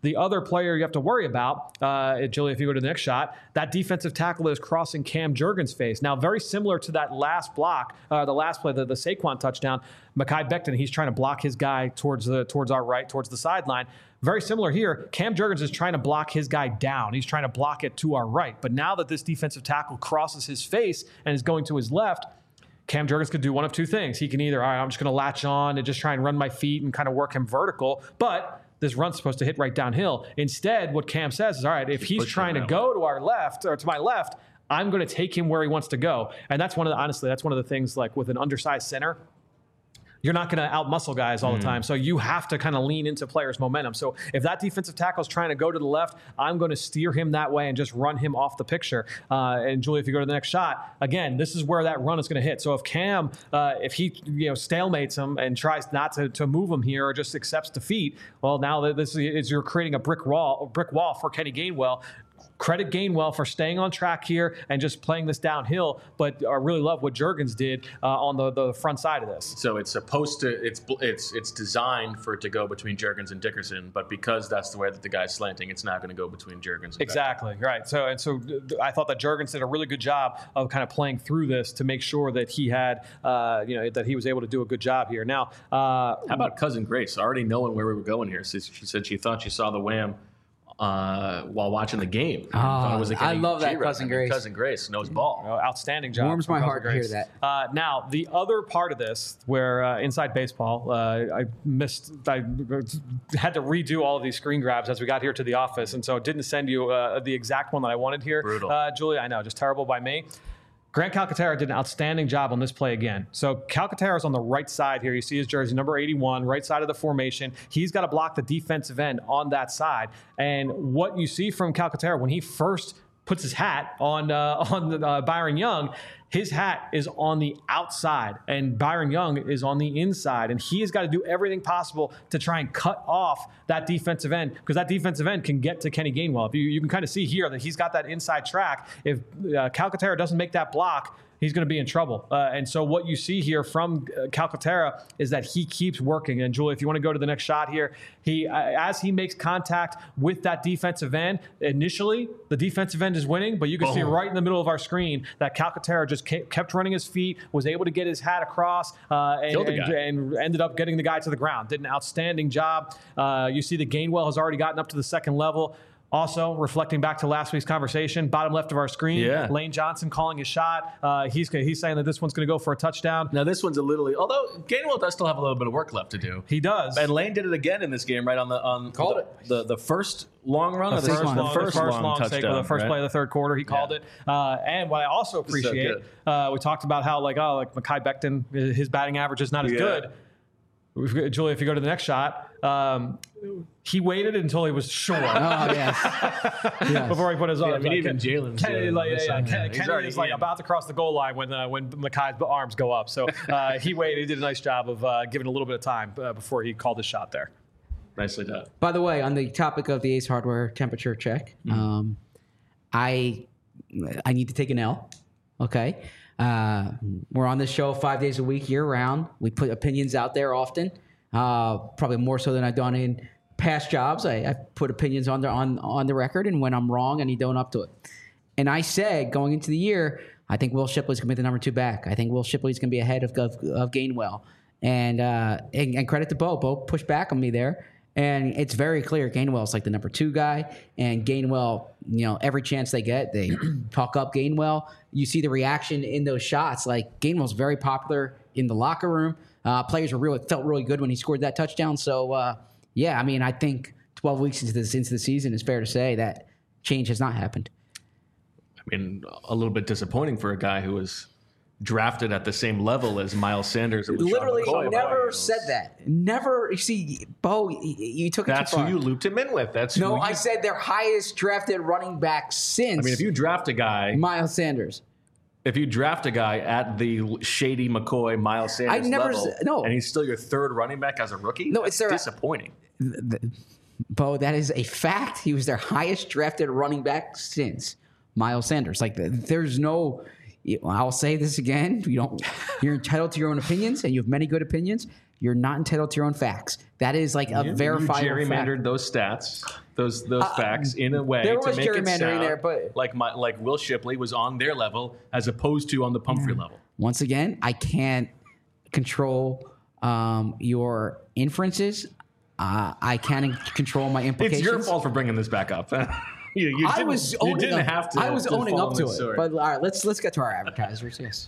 The other player you have to worry about, Julie, if you go to the next shot, that defensive tackle that is crossing Cam Jurgens' face. Now, very similar to that last block, the last play, the Saquon touchdown, Mekhi Becton, he's trying to block his guy towards our right, towards the sideline. Very similar here. Cam Jurgens is trying to block his guy down. He's trying to block it to our right. But now that this defensive tackle crosses his face and is going to his left, Cam Jurgens could do one of two things. He can either, all right, I'm just going to latch on and just try and run my feet and kind of work him vertical, but this run's supposed to hit right downhill. Instead, what Cam says is, all right, if he's trying to go to our left or to my left, I'm going to take him where he wants to go. And that's honestly, that's one of the things, like with an undersized center, you're not going to outmuscle guys all the time. So you have to kind of lean into players' momentum. So if that defensive tackle is trying to go to the left, I'm going to steer him that way and just run him off the picture. And Julie, if you go to the next shot, again, this is where that run is going to hit. So if Cam, if he stalemates him and tries not to move him here or just accepts defeat, well, now this is you're creating a brick wall for Kenny Gainwell. Credit Gainwell for staying on track here and just playing this downhill, but I really love what Jurgens did on the front side of this. So it's supposed to, it's designed for it to go between Jurgens and Dickerson, but because that's the way that the guy's slanting, it's not going to go between Jurgens and exactly, right. So I thought that Jurgens did a really good job of kind of playing through this to make sure that he had, that he was able to do a good job here. Now, how about Cousin Grace? Already knowing where we were going here, she said she thought she saw the wham while watching the game. I love that Cousin Grace. Cousin Grace knows ball. Outstanding job. Warms my heart to hear that. Now, the other part of this, where Inside Baseball, I had to redo all of these screen grabs as we got here to the office, and so it didn't send you the exact one that I wanted here. Brutal. Julie, I know, just terrible by me. Grant Calcaterra did an outstanding job on this play again. So Calcaterra is on the right side here. You see his jersey, number 81, right side of the formation. He's got to block the defensive end on that side. And what you see from Calcaterra when he first puts his hat on Byron Young, his hat is on the outside and Byron Young is on the inside. And he has got to do everything possible to try and cut off that defensive end, because that defensive end can get to Kenny Gainwell. If you can kind of see here that he's got that inside track. If Calcaterra doesn't make that block, he's going to be in trouble. And so what you see here from Calcaterra is that he keeps working. And Julie, if you want to go to the next shot here, as he makes contact with that defensive end, initially the defensive end is winning, but you can see right in the middle of our screen that Calcaterra just kept running his feet, was able to get his hat across, and ended up getting the guy to the ground. Did an outstanding job. You see the Gainwell has already gotten up to the second level. Also, reflecting back to last week's conversation, bottom left of our screen, Lane Johnson calling his shot. He's saying that this one's going to go for a touchdown. Now, this one's although Gainwell does still have a little bit of work left to do. He does. And Lane did it again in this game, right on the first long run, the first long touchdown, take, the first play of the third quarter. He called it. And what I also appreciate, we talked about how like Mekhi Becton, his batting average is not as good. Julie, if you go to the next shot, he waited until he was sure. Before he put his arms. I mean, even Jalen's Kenny is about to cross the goal line when Mekhi's arms go up. So he waited. He did a nice job of giving a little bit of time before he called his shot there. Nicely done. By the way, on the topic of the Ace Hardware temperature check, I need to take an L. Okay. We're on this show 5 days a week, year round. We put opinions out there often, probably more so than I've done in past jobs. I put opinions on the record, and when I'm wrong, I need to own up to it. And I said going into the year, I think Will Shipley's going to be the number 2 back. I think Will Shipley's going to be ahead of Gainwell. And credit to Bo. Bo pushed back on me there. And it's very clear Gainwell's like the number 2 guy, and Gainwell, every chance they get, they talk up Gainwell. You see the reaction in those shots. Like, Gainwell's very popular in the locker room. Players felt really good when he scored that touchdown. So, I think 12 weeks into the season, it's fair to say that change has not happened. I mean, a little bit disappointing for a guy who was drafted at the same level as Miles Sanders. Literally never said that. Never. You see, Bo, you took it too far. That's who you looped him in with. I said their highest drafted running back since. I mean, if you draft a guy, Miles Sanders. If you draft a guy at the Shady McCoy, Miles Sanders level, and he's still your 3rd running back as a rookie, that's disappointing. Bo, that is a fact. He was their highest drafted running back since Miles Sanders. Like, there's no. I'll say this again. You're entitled to your own opinions, and you have many good opinions. You're not entitled to your own facts. That is like a verifiable You gerrymandered fact. those stats, those facts in a way there to was make it gerrymandering sound there, but like Will Shipley was on their level as opposed to on the Pumphrey level. Once again, I can't control your inferences. I can't control my implications. It's your fault for bringing this back up. You didn't have to. I was owning up to it. Sword. But all right, let's get to our advertisers. Yes.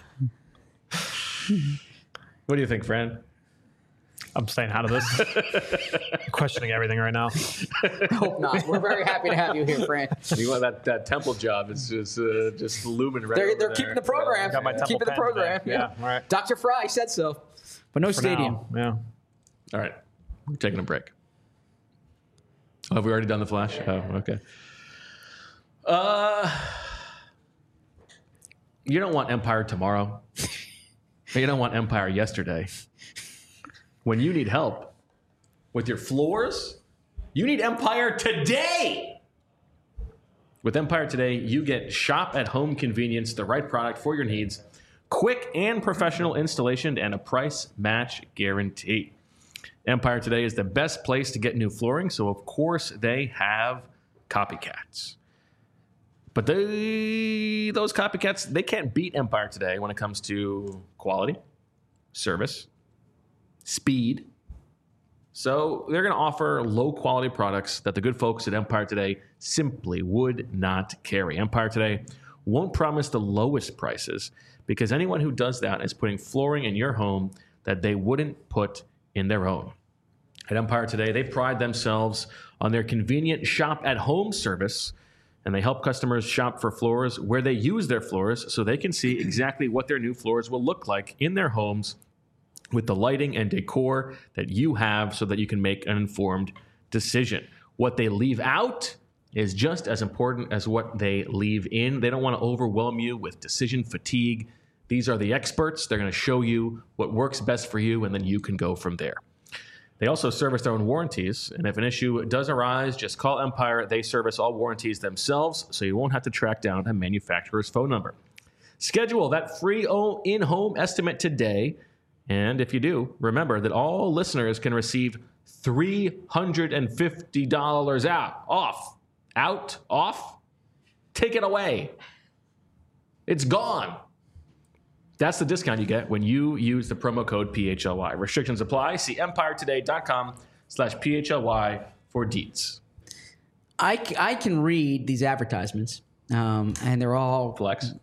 What do you think, Fran? I'm staying out of this. Questioning everything right now. I hope not. We're very happy to have you here, Fran. That temple job is just looming right over They're there. keeping the program. Got my temple keeping the pen program. today. Yeah, all right. Dr. Fry said so, but no stadium. Now, All right, we're taking a break. Oh, have we already done the flash? Oh, okay. You don't want Empire tomorrow. You don't want Empire yesterday. When you need help with your floors, you need Empire today. With Empire Today, you get shop-at-home convenience, the right product for your needs, quick and professional installation, and a price match guarantee. Empire Today is the best place to get new flooring, so of course they have copycats. But those copycats, they can't beat Empire Today when it comes to quality, service, speed. So they're going to offer low-quality products that the good folks at Empire Today simply would not carry. Empire Today won't promise the lowest prices because anyone who does that is putting flooring in your home that they wouldn't put in their own. At Empire Today, they pride themselves on their convenient shop-at-home service, and they help customers shop for floors where they use their floors so they can see exactly what their new floors will look like in their homes with the lighting and decor that you have so that you can make an informed decision. What they leave out is just as important as what they leave in. They don't want to overwhelm you with decision fatigue. These are the experts. They're going to show you what works best for you, and then you can go from there. They also service their own warranties, and if an issue does arise, just call Empire. They service all warranties themselves, so you won't have to track down a manufacturer's phone number. Schedule that free in-home estimate today, and if you do, remember that all listeners can receive $350 off. Take it away. It's gone. That's the discount you get when you use the promo code PHLY. Restrictions apply. See empiretoday.com/PHLY for deets. I can read these advertisements, and they're all Flex.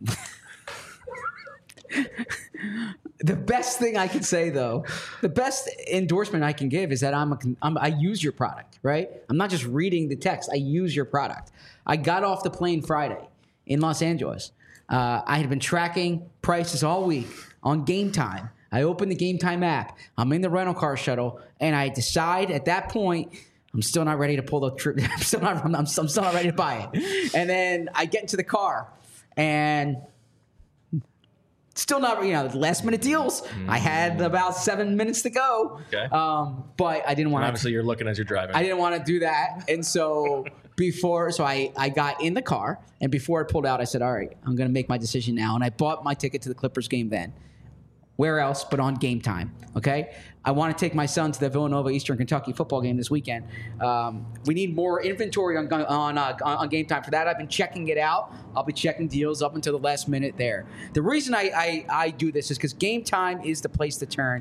The best thing I can say, though, the best endorsement I can give is that I use your product, right? I'm not just reading the text. I use your product. I got off the plane Friday in Los Angeles. I had been tracking prices all week on Game Time. I opened the Game Time app. I'm in the rental car shuttle, and I decide at that point I'm still not ready to pull the trip. I'm still not ready to buy it. And then I get into the car, and still not, last minute deals. I had about 7 minutes to go. Okay. But I didn't want to. Obviously, you're looking as you're driving. I didn't want to do that. And so I got in the car, and before I pulled out, I said, all right, I'm going to make my decision now. And I bought my ticket to the Clippers game then. Where else but on Game Time, okay? I want to take my son to the Villanova Eastern Kentucky football game this weekend. We need more inventory on Game Time. For that, I've been checking it out. I'll be checking deals up until the last minute there. The reason I do this is because Game Time is the place to turn.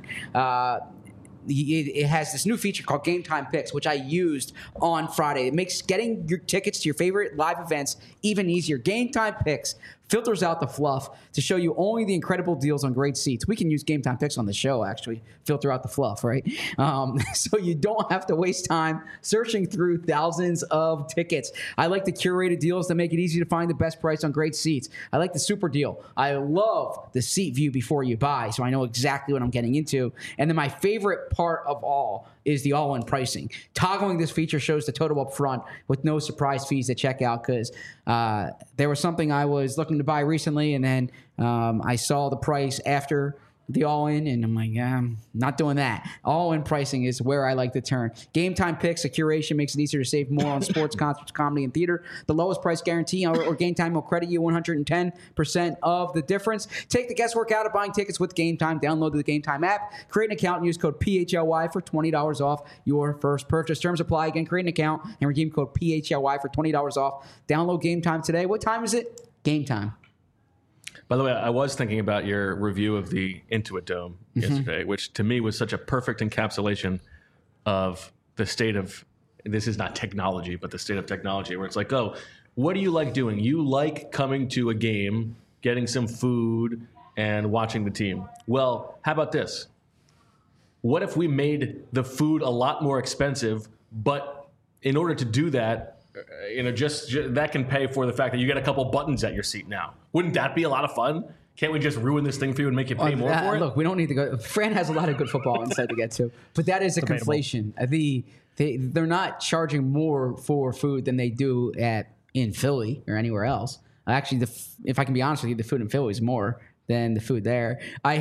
It has this new feature called Game Time Picks, which I used on Friday. It makes getting your tickets to your favorite live events even easier. Game Time Picks filters out the fluff to show you only the incredible deals on great seats. We can use Game Time Picks on the show, actually. Filter out the fluff, right? So you don't have to waste time searching through thousands of tickets. I like the curated deals that make it easy to find the best price on great seats. I like the super deal. I love the seat view before you buy, so I know exactly what I'm getting into. And then my favorite part of all is the all-in pricing. Toggling this feature shows the total up front with no surprise fees at checkout, because there was something I was looking to buy recently, and then I saw the price after the all-in, and I'm like, I'm not doing that. All-in pricing is where I like to turn. Game Time Picks, a curation, makes it easier to save more on sports, concerts, comedy, and theater. The lowest price guarantee or Game Time will credit you 110% of the difference. Take the guesswork out of buying tickets with Game Time. Download the Game Time app, create an account, and use code PHLY for $20 off your first purchase. Terms apply. Again, create an account and redeem code PHLY for $20 off. Download Game Time today. What time is it? Game Time. By the way, I was thinking about your review of the Intuit Dome yesterday, which to me was such a perfect encapsulation of the state of, this is not technology, but the state of technology, where it's like, oh, what do you like doing? You like coming to a game, getting some food, and watching the team. Well, how about this? What if we made the food a lot more expensive, but in order to do that, just that can pay for the fact that you get a couple buttons at your seat now. Wouldn't that be a lot of fun? Can't we just ruin this thing for you and make you pay more for it? Look, we don't need to go. Fran has a lot of good football insight to get to, but that is a conflation. They're not charging more for food than they do in Philly or anywhere else. Actually, if I can be honest with you, the food in Philly is more than the food there.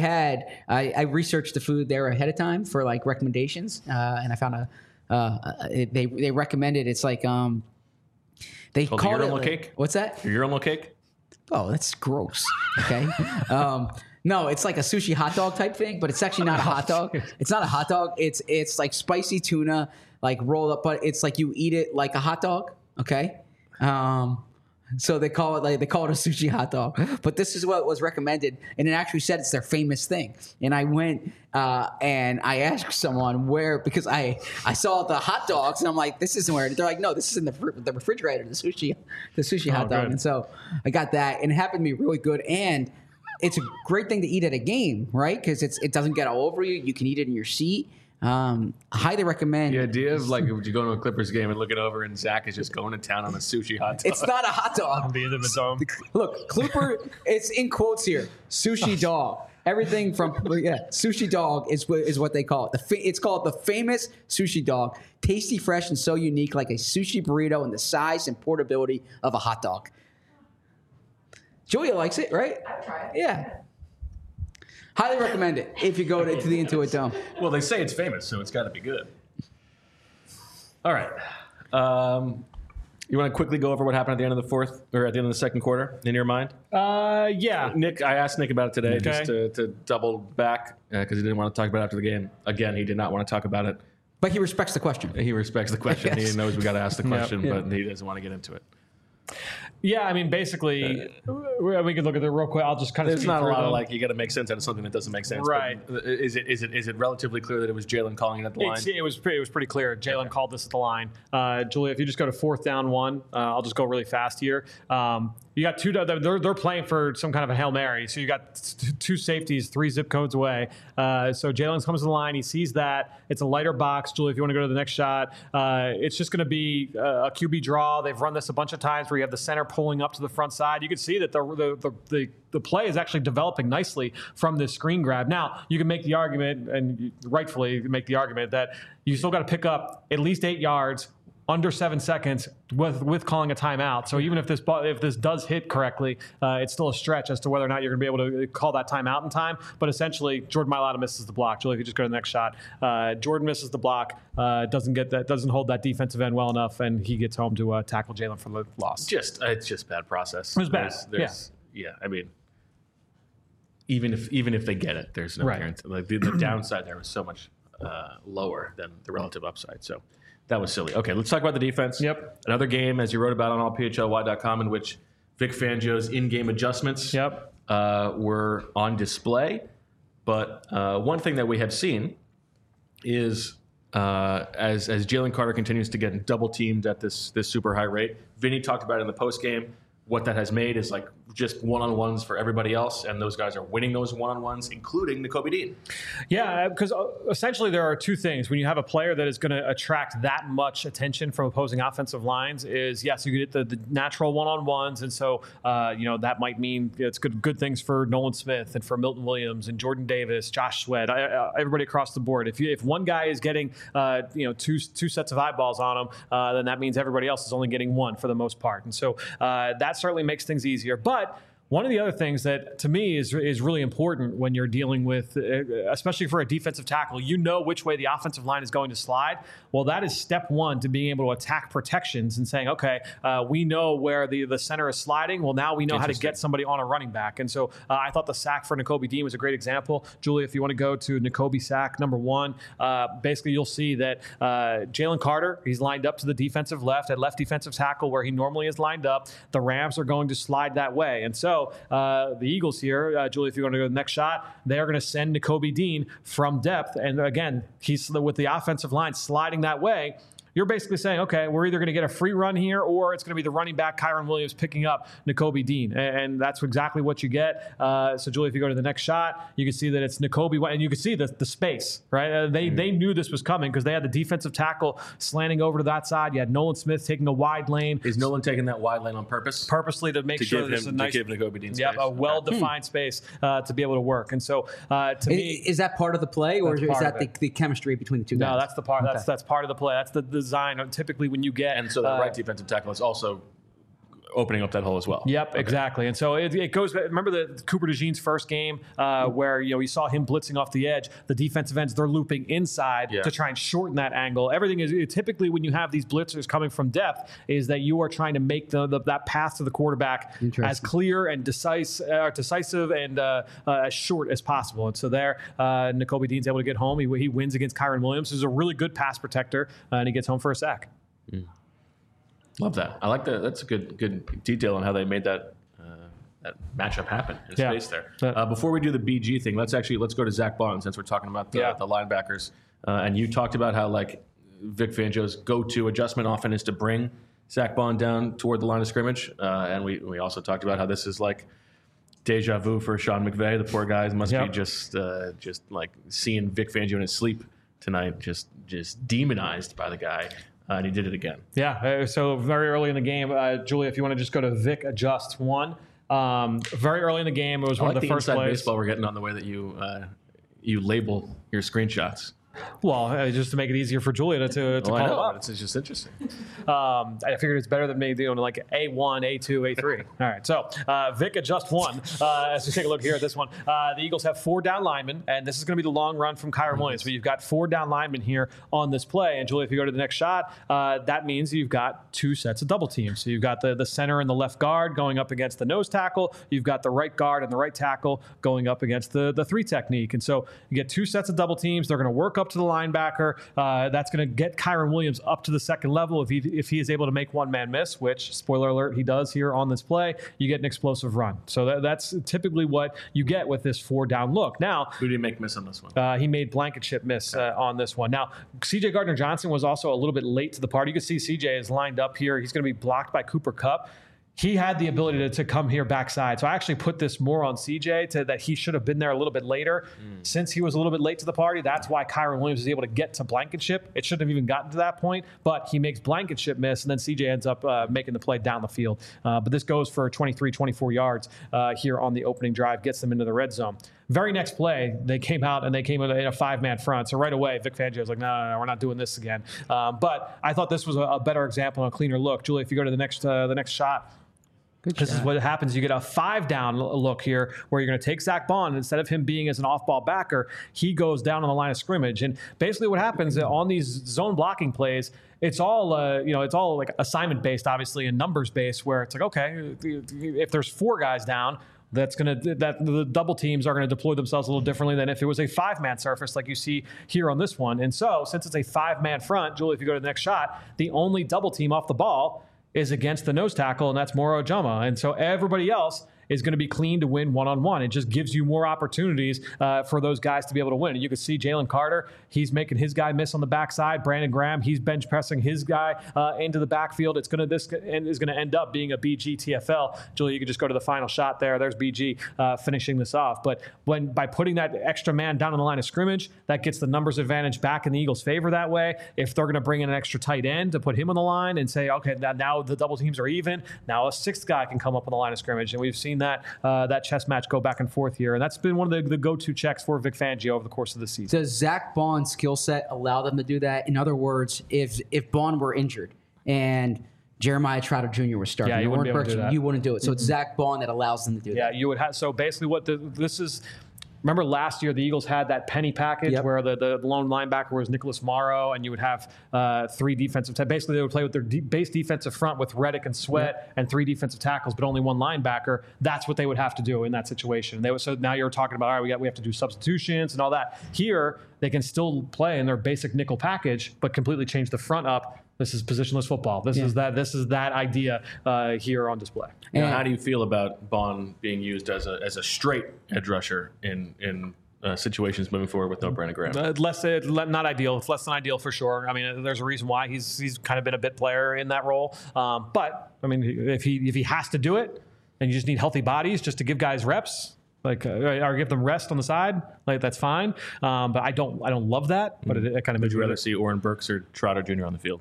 I researched the food there ahead of time for like recommendations, and I found they recommended, it's like they call it urinal cake. What's that? Your urinal cake? Oh, that's gross. Okay. No, it's like a sushi hot dog type thing, but it's actually not a hot dog. It's not a hot dog. It's like spicy tuna, like rolled up, but it's like you eat it like a hot dog. Okay. So they call it a sushi hot dog, but this is what was recommended, and it actually said it's their famous thing. And I went and I asked someone where, because I saw the hot dogs and I'm like, this isn't where. They're like, no, this is in the refrigerator, the sushi hot dog. Good. And so I got that, and it happened to be really good, and it's a great thing to eat at a game, right? Because it doesn't get all over you. You can eat it in your seat. Highly recommend. The idea of like if you go to a Clippers game and looking over and Zach is just going to town on a sushi hot dog. It's not a hot dog. The end of the dome. Look, Clipper. It's in quotes here. Sushi dog. Everything from sushi dog is what they call it. It's called the famous sushi dog. Tasty, fresh, and so unique, like a sushi burrito in the size and portability of a hot dog. Julia likes it, right? I've tried. Yeah. Highly recommend it if you go to the Intuit Dome. Well, they say it's famous, so it's got to be good. All right. You want to quickly go over what happened at the end of the fourth, or at the end of the second quarter, in your mind? Yeah. Nick, I asked Nick about it today just to double back because he didn't want to talk about it after the game. Again, he did not want to talk about it. But he respects the question. He respects the question. Yes. He knows we got to ask the question, but he doesn't want to get into it. Yeah, I mean, basically, we could look at it real quick. I'll just kind of. There's not a lot of like you got to make sense out of something that doesn't make sense. Right? Is it relatively clear that it was Jalen calling it at the line? It was pretty clear. Jalen called this at the line. Julia, if you just go to 4th down 1, I'll just go really fast here. You got two. They're playing for some kind of a Hail Mary. So you got 2 safeties, 3 zip codes away. So Jalen comes to the line. He sees that it's a lighter box. Julia, if you want to go to the next shot, it's just going to be a QB draw. They've run this a bunch of times where you have the center pulling up to the front side. You can see that the play is actually developing nicely from this screen grab. Now you can make the argument, and rightfully make the argument, that you still got to pick up at least 8 yards under 7 seconds with calling a timeout. So even if this does hit correctly, it's still a stretch as to whether or not you're going to be able to call that timeout in time. But essentially, Jordan Mailata misses the block. Julie, if you just go to the next shot, Jordan misses the block, doesn't hold that defensive end well enough, and he gets home to tackle Jalen for the loss. It's just bad process. It was bad. Yeah, I mean, even if they get it, there's no guarantee. Like the downside there was so much lower than the relative upside. So. That was silly. Okay, let's talk about the defense. Yep. Another game, as you wrote about on allphly.com, in which Vic Fangio's in-game adjustments were on display. But one thing that we have seen is as Jalen Carter continues to get double-teamed at this super high rate, Vinny talked about it in the postgame. What that has made is like just one-on-ones for everybody else, and those guys are winning those one-on-ones, including Nakobe Dean. Yeah, because essentially there are 2 things. When you have a player that is going to attract that much attention from opposing offensive lines is, yes, you get the natural one-on-ones, and so that might mean it's good things for Nolan Smith and for Milton Williams and Jordan Davis, Josh Sweat, everybody across the board. If one guy is getting two sets of eyeballs on him, then that means everybody else is only getting one for the most part, and so that certainly makes things easier. But One of the other things that to me is really important when you're dealing with, especially for a defensive tackle, you know which way the offensive line is going to slide. Well, that is step one to being able to attack protections and saying, okay, we know where the center is sliding. Well, now we know how to get somebody on a running back. And so I thought the sack for Nakobe Dean was a great example. Julia, if you want to go to Nakobe sack number 1, basically you'll see that Jalen Carter, he's lined up to the defensive left at left defensive tackle where he normally is lined up. The Rams are going to slide that way. And so the Eagles here, Julie, if you're going to go to the next shot, they're going to send Nakobe Dean from depth. And again, he's with the offensive line sliding that way. You're basically saying, okay, we're either going to get a free run here or it's going to be the running back, Kyren Williams, picking up Nakobe Dean. And that's exactly what you get. So, Julie, if you go to the next shot, you can see that it's Nakobe. And you can see the space, right? They knew this was coming because they had the defensive tackle slanting over to that side. You had Nolan Smith taking a wide lane. Is Nolan taking that wide lane on purpose? Purposely to make sure there's a nice, to give Nakobe Dean space. Yep, a well-defined space to be able to work. And so, to me, is that part of the play, or is that the chemistry between the two guys? No, that's the part. Okay. That's part of the play. That's the design. Typically, when you get and so the right defensive tackle is also opening up that hole as well. Yep, okay. Exactly. And so it goes. Remember the Cooper DeJean's first game where you saw him blitzing off the edge. The defensive ends, they're looping inside to try and shorten that angle. Everything is typically when you have these blitzers coming from depth is that you are trying to make that path to the quarterback as clear and decisive and as short as possible. And so there, Nakobe Dean's able to get home. He wins against Kyren Williams, who's a really good pass protector, and he gets home for a sack. Love that. I like that. That's a good detail on how they made that matchup happen in space there. Before we do the BG thing, let's go to Zach Bond since we're talking about the linebackers. And you talked about how like Vic Fangio's go-to adjustment often is to bring Zach Bond down toward the line of scrimmage. And we also talked about how this is like deja vu for Sean McVay. The poor guys must be just like seeing Vic Fangio in his sleep tonight, just demonized by the guy. And he did it again. Yeah, so very early in the game, Julia, if you want to just go to Vic Adjust 1. Very early in the game, it was one of the first plays. Baseball we're getting on the way that you label your screenshots. Well, just to make it easier for Julia to call it up. It's just interesting. I figured it's better than maybe doing like A1, A2, A3. All right, so Vic Adjust 1. As we take a look here at this one, the Eagles have 4 down linemen, and this is going to be the long run from Kyren Williams. But you've got 4 down linemen here on this play. And Julia, if you go to the next shot, that means you've got 2 sets of double teams. So you've got the center and the left guard going up against the nose tackle. You've got the right guard and the right tackle going up against the 3 technique. And so you get 2 sets of double teams. They're going to work up to the linebacker. That's going to get Kyren Williams up to the second level. If he is able to make one man miss, which, spoiler alert, he does here on this play, you get an explosive run. So that's typically what you get with this 4 down look. Now, who did he make miss on this one? He made Blankenship miss on this one. Now, C.J. Gardner-Johnson was also a little bit late to the party. You can see C.J. is lined up here. He's going to be blocked by Cooper Kupp. He had the ability to come here backside. So I actually put this more on CJ that he should have been there a little bit later. Since he was a little bit late to the party, that's why Kyren Williams was able to get to Blankenship. It shouldn't have even gotten to that point, but he makes Blankenship miss, and then CJ ends up making the play down the field. But this goes for 23, 24 yards here on the opening drive, gets them into the red zone. Very next play, they came out and they came in a 5-man front. So right away, Vic Fangio was like, no, we're not doing this again. But I thought this was a better example and a cleaner look. Julie, if you go to the next shot, this is what happens. You get a 5-down look here where you're going to take Zach Bond. Instead of him being as an off-ball backer, he goes down on the line of scrimmage. And basically what happens on these zone blocking plays, it's all like assignment-based, obviously, and numbers-based, where it's like, okay, if there's 4 guys down, that the double teams are going to deploy themselves a little differently than if it was a 5-man surface like you see here on this one. And so since it's a 5-man front, Julie, if you go to the next shot, the only double team off the ball is against the nose tackle, and that's Moro Ojomo. And so everybody else is going to be clean to win one-on-one. It just gives you more opportunities for those guys to be able to win. And you can see Jalen Carter, he's making his guy miss on the backside. Brandon Graham, he's bench pressing his guy into the backfield. This is going to end up being a BG TFL. Julie, you can just go to the final shot there. There's BG finishing this off. But by putting that extra man down on the line of scrimmage, that gets the numbers advantage back in the Eagles' favor that way. If they're going to bring in an extra tight end to put him on the line and say, okay, now the double teams are even, now a 6th guy can come up on the line of scrimmage. And we've seen that chess match go back and forth here. And that's been one of the go-to checks for Vic Fangio over the course of the season. Does Zach Bond's skill set allow them to do that? In other words, if Bond were injured and Jeremiah Trotter Jr. was starting. Yeah, you wouldn't be able to do that. You wouldn't do it. So it's Zach Bond that allows them to do that. Yeah, you would have. So basically, this is. Remember last year the Eagles had that penny package where the lone linebacker was Nicholas Morrow, and you would have 3 defensive. Basically, they would play with their base defensive front with Reddick and Sweat and 3 defensive tackles, but only 1 linebacker. That's what they would have to do in that situation. So now you're talking about, all right, we have to do substitutions and all that. Here they can still play in their basic nickel package, but completely change the front up. This is positionless football. This is that idea here on display. Now, how do you feel about Bond being used as a straight edge rusher in situations moving forward with no Brandon Graham? Not ideal. It's less than ideal for sure. I mean, there's a reason why he's kind of been a bit player in that role. But I mean, if he has to do it, and you just need healthy bodies just to give guys reps, or give them rest on the side, that's fine. But I don't love that. But it kind of. Would you rather see Oren Burks or Trotter Jr. on the field?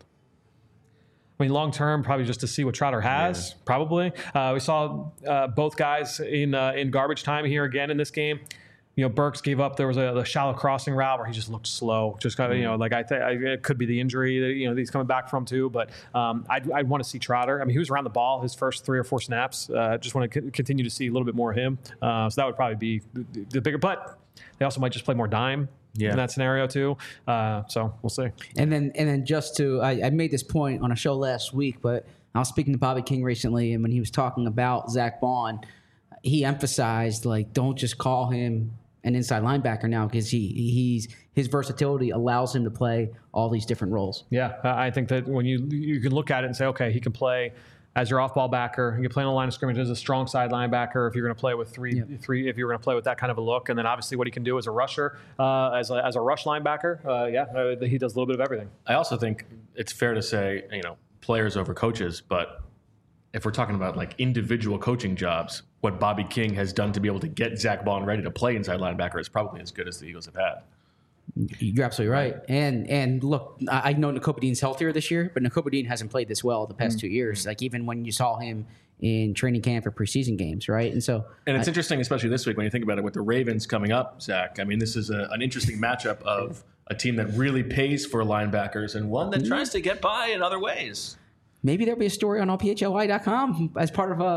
I mean, long term, probably just to see what Trotter has. Probably, we saw both guys in garbage time here again in this game. Burks gave up. There was a shallow crossing route where he just looked slow. Just kind of, I think it could be the injury that he's coming back from too. But I'd want to see Trotter. I mean, he was around the ball his first 3 or 4 snaps. Just want to continue to see a little bit more of him. So that would probably be the bigger. But they also might just play more dime. In that scenario too. So we'll see. And then just to, I made this point on a show last week, but I was speaking to Bobby King recently, and when he was talking about Zach Bond, he emphasized, don't just call him an inside linebacker now, because his versatility allows him to play all these different roles. Yeah, I think that when you can look at it and say, okay, he can play as your off-ball backer, you can play on the line of scrimmage as a strong side linebacker if you're going to play with three, if you're going to play with that kind of a look. And then obviously what he can do as a rusher, as a rush linebacker, he does a little bit of everything. I also think it's fair to say, players over coaches, but if we're talking about individual coaching jobs, what Bobby King has done to be able to get Zach Bond ready to play inside linebacker is probably as good as the Eagles have had. You're absolutely right. And look, I know Nakobe Dean's healthier this year, but Nakobe Dean hasn't played this well the past 2 years. Even when you saw him in training camp or preseason games, right? And it's interesting, especially this week when you think about it with the Ravens coming up, Zach. I mean, this is an interesting matchup of a team that really pays for linebackers and one that tries to get by in other ways. Maybe there'll be a story on allphly.com as part of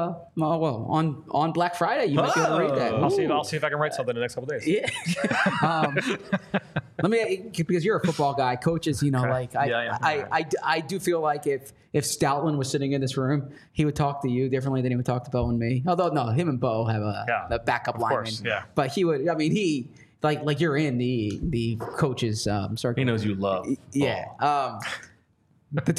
on Black Friday. You might be able to read that. I'll see if I can write something in the next couple of days. Yeah. Let me, because you're a football guy, coaches. I do feel like if Stoutland was sitting in this room, he would talk to you differently than he would talk to Bo and me. Although no, him and Bo have a backup lineman. Course, yeah. But he would. I mean, he like you're in the coaches circle. He knows you love. Yeah. The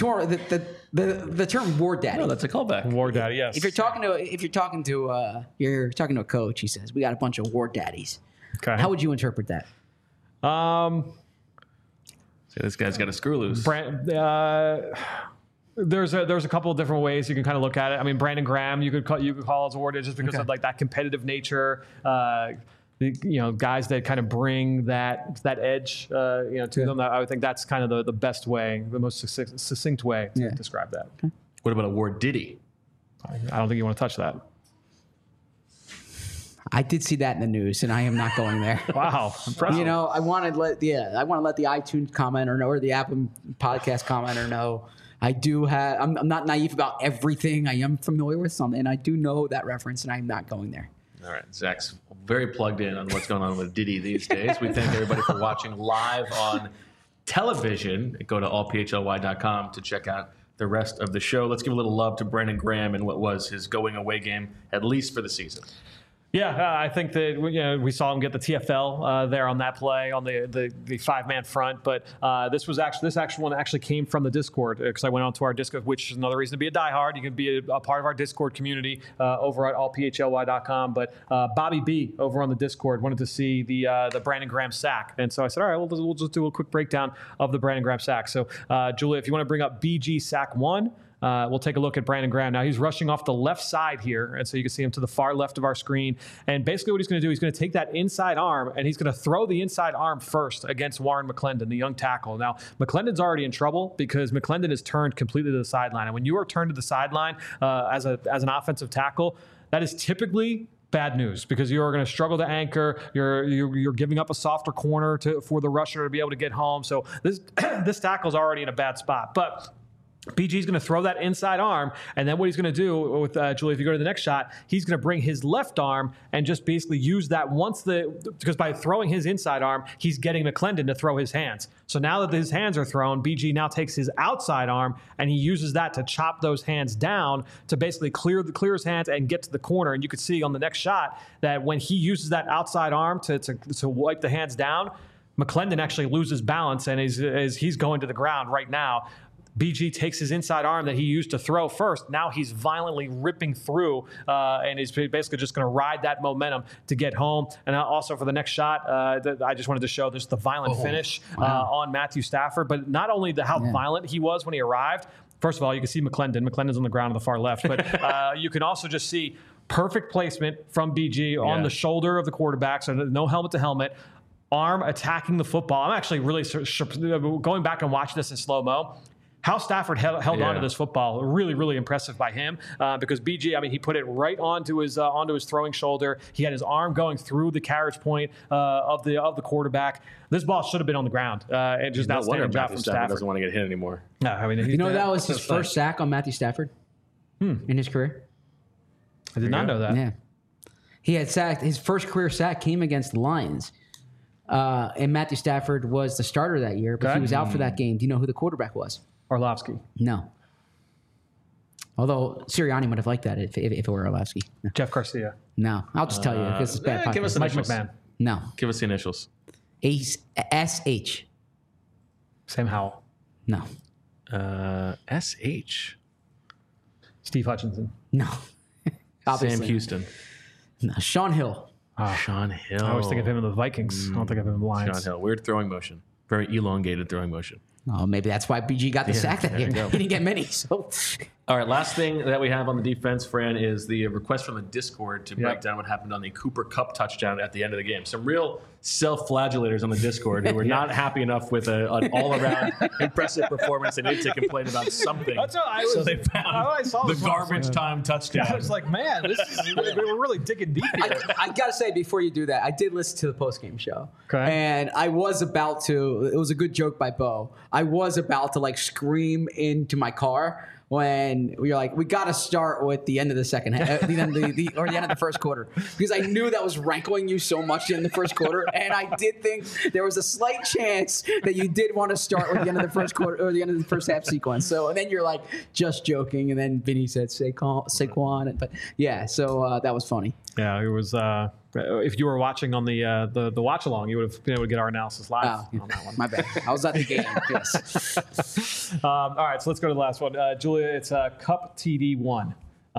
term war daddy. No, that's a callback. War daddy, yes. If you're talking to a coach, he says, "We got a bunch of war daddies." Okay. How would you interpret that? So this guy's got a screw loose. There's a couple of different ways you can kind of look at it. I mean, Brandon Graham, you could call as a war daddy just because of that competitive nature. Guys that kind of bring that edge, to them. I would think that's kind of the best way, the most succinct way to describe that. Okay. What about a war Diddy? I don't think you want to touch that. I did see that in the news, and I am not going there. Wow, impressive. I want to let the iTunes commenter know, or the Apple Podcast commenter know. I do have. I'm not naive about everything. I am familiar with some, and I do know that reference, and I'm not going there. All right, Zach's very plugged in on what's going on with Diddy these days. We thank everybody for watching live on television. Go to allphly.com to check out the rest of the show. Let's give a little love to Brandon Graham and what was his going away game, at least for the season. Yeah, I think that we saw him get the TFL there on that play on the 5-man front. But this actual one actually came from the Discord, because I went onto our Discord, which is another reason to be a diehard. You can be a part of our Discord community over at allphly.com. But Bobby B over on the Discord wanted to see the Brandon Graham sack, and so I said, all right, we'll just do a quick breakdown of the Brandon Graham sack. So Julia, if you want to bring up BG sack 1. We'll take a look at Brandon Graham. Now, he's rushing off the left side here, and so you can see him to the far left of our screen. And basically what he's going to do, he's going to take that inside arm, and he's going to throw the inside arm first against Warren McClendon, the young tackle. Now, McClendon's already in trouble because McClendon is turned completely to the sideline. And when you are turned to the sideline as an offensive tackle, that is typically bad news, because you are going to struggle to anchor. You're giving up a softer corner for the rusher to be able to get home. So this tackle's already in a bad spot. But BG's going to throw that inside arm, and then what he's going to do with Julie, if you go to the next shot, he's going to bring his left arm and just basically use that because by throwing his inside arm, he's getting McClendon to throw his hands. So now that his hands are thrown, BG now takes his outside arm and he uses that to chop those hands down to basically clear his hands and get to the corner. And you could see on the next shot that when he uses that outside arm to wipe the hands down, McClendon actually loses balance and as he's going to the ground right now. BG takes his inside arm that he used to throw first. Now he's violently ripping through and he's basically just going to ride that momentum to get home. And also for the next shot, I just wanted to show the violent finish on Matthew Stafford. But not only how violent he was when he arrived. First of all, you can see McClendon. McClendon's on the ground on the far left. But you can also just see perfect placement from BG on the shoulder of the quarterback. So no helmet to helmet. Arm attacking the football. I'm actually really going back and watching this in slow-mo. How Stafford held on to this football, really, really impressive by him because BG, I mean, he put it right onto his throwing shoulder. He had his arm going through the carriage point of the quarterback. This ball should have been on the ground and just not standing job from Stafford. Doesn't want to get hit anymore. No, I mean, that was his first sack on Matthew Stafford in his career. I did not know that. Yeah, he had sacked. His first career sack came against the Lions. And Matthew Stafford was the starter that year, but he was out for that game. Do you know who the quarterback was? Orlovsky. No. Although Sirianni would have liked that if it were Orlovsky. No. Jeff Garcia. No. I'll just tell you because it's bad. Give us the Mike initials. McMahon. No. Give us the initials. S-H. Sam Howell. No. S-H. Steve Hutchinson. No. Sam Houston. No. Sean Hill. Sean Hill. I always think of him in the Vikings. I don't think of him in the Lions. Sean Hill. Weird throwing motion. Very elongated throwing motion. Oh, maybe that's why BG got the sack that year. He didn't get many. So, all right, last thing that we have on the defense, Fran, is the request from the Discord to break down what happened on the Cooper Kupp touchdown at the end of the game. Some real self-flagellators on the Discord who were not happy enough with an all-around impressive performance and needed to complain about something. That's what I was, so they found the garbage time touchdown. I was like, man, we're really digging deep here. I got to say, before you do that, I did listen to the postgame show. Okay. And I was about to, it was a good joke by Bo. I was about to scream into my car when we were like, we got to start with the end of the second half, or the end of the first quarter, because I knew that was rankling you so much in the first quarter, and I did think there was a slight chance that you did want to start with the end of the first quarter or the end of the first half sequence. So, and then you're like, just joking, and then Vinny said Saquon, but yeah, so that was funny. Yeah, it was. If you were watching on the watch along, you would have been able to get our analysis live on that one. My bad. I was at the game. Yes. All right, so let's go to the last one. Julia, it's Kupp TD1.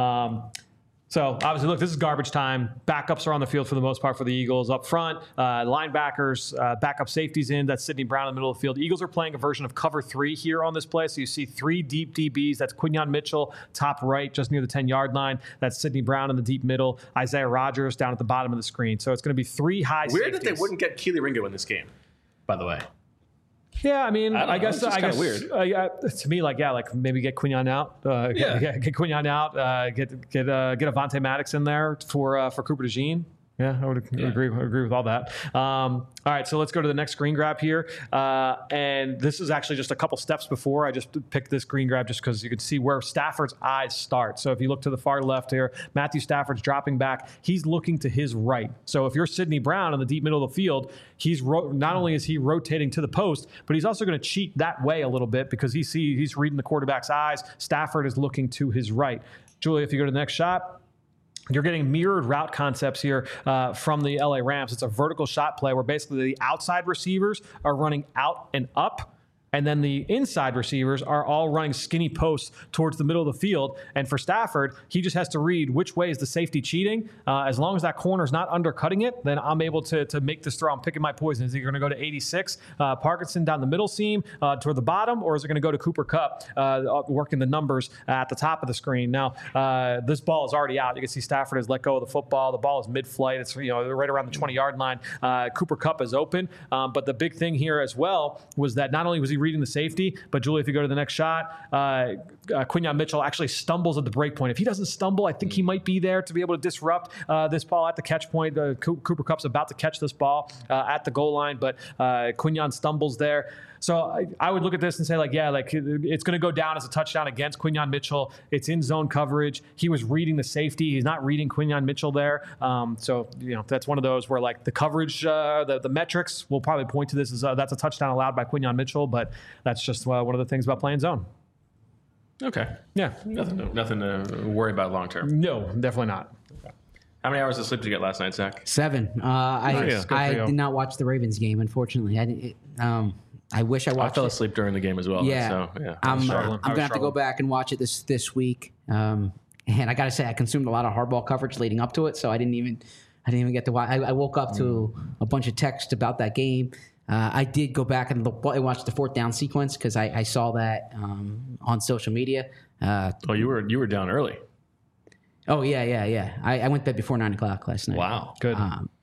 So obviously, look, this is garbage time. Backups are on the field for the most part for the Eagles. Up front, linebackers, backup safeties in. That's Sidney Brown in the middle of the field. Eagles are playing a version of cover 3 here on this play. So you see 3 deep DBs. That's Quinyon Mitchell, top right, just near the 10-yard line. That's Sidney Brown in the deep middle. Isaiah Rodgers down at the bottom of the screen. So it's going to be 3 high safeties. Weird that they wouldn't get Keely Ringo in this game, by the way. Yeah, I mean, I guess it's kind of weird. To me, maybe get Quinyon out. Get Quinyon out. Get Avonte Maddox in there for Cooper DeJean. Yeah, I would agree with all that. All right, so let's go to the next screen grab here. And this is actually just a couple steps before. I just picked this screen grab just because you can see where Stafford's eyes start. So if you look to the far left here, Matthew Stafford's dropping back. He's looking to his right. So if you're Sidney Brown in the deep middle of the field, he's not only is he rotating to the post, but he's also going to cheat that way a little bit because he's reading the quarterback's eyes. Stafford is looking to his right. Julia, if you go to the next shot. You're getting mirrored route concepts here from the LA Rams. It's a vertical shot play where basically the outside receivers are running out and up. And then the inside receivers are all running skinny posts towards the middle of the field. And for Stafford, he just has to read which way is the safety cheating. As long as that corner is not undercutting it, then I'm able to make this throw. I'm picking my poison. Is he going to go to 86, Parkinson down the middle seam toward the bottom, or is it going to go to Cooper Kupp, working the numbers at the top of the screen? Now, this ball is already out. You can see Stafford has let go of the football. The ball is mid-flight. It's right around the 20-yard line. Cooper Kupp is open. But the big thing here as well was that not only was he reading the safety. But Julie, if you go to the next shot, Quinyon Mitchell actually stumbles at the break point. If he doesn't stumble, I think he might be there to be able to disrupt this ball at the catch point. Cooper Kupp's about to catch this ball at the goal line, but Quinyon stumbles there. So I would look at this and say, it's going to go down as a touchdown against Quinyon Mitchell. It's in zone coverage. He was reading the safety. He's not reading Quinyon Mitchell there. That's one of those where the coverage, the metrics will probably point to this as that's a touchdown allowed by Quinyon Mitchell, but that's just one of the things about playing zone. Okay. Yeah. Nothing to worry about long term. No, definitely not. How many hours of sleep did you get last night, Zach? 7. I did not watch the Ravens game, unfortunately. I wish I watched. I fell asleep during the game as well. Yeah, so, yeah. I'm gonna have to go back and watch it this week. And I gotta say, I consumed a lot of hardball coverage leading up to it, so I didn't even get to watch. I woke up to a bunch of text about that game. I did go back and watch the 4th down sequence because I saw that on social media. You were down early. Oh yeah. I went to bed before 9 o'clock last night. Wow, good.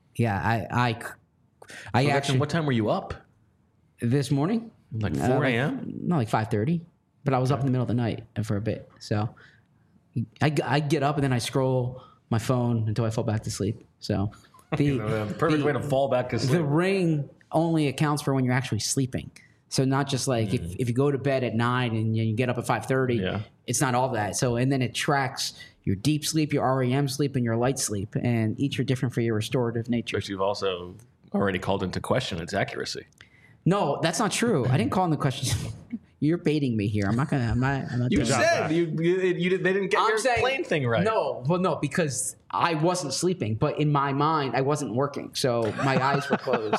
I actually. What time were you up? This morning? Like 4 a.m.? No, like 5:30. But I was up in the middle of the night for a bit. So I get up and then I scroll my phone until I fall back to sleep. So the perfect way to fall back to sleep. The ring only accounts for when you're actually sleeping. So not just like if you go to bed at 9 and you get up at 5:30, it's not all that. So and then it tracks your deep sleep, your REM sleep, and your light sleep, and each are different for your restorative nature. But you've also already called into question its accuracy. No, that's not true. I didn't call in the question. You're baiting me here. I'm not. You said they didn't get your plane thing right. No, because I wasn't sleeping, but in my mind, I wasn't working, so my eyes were closed.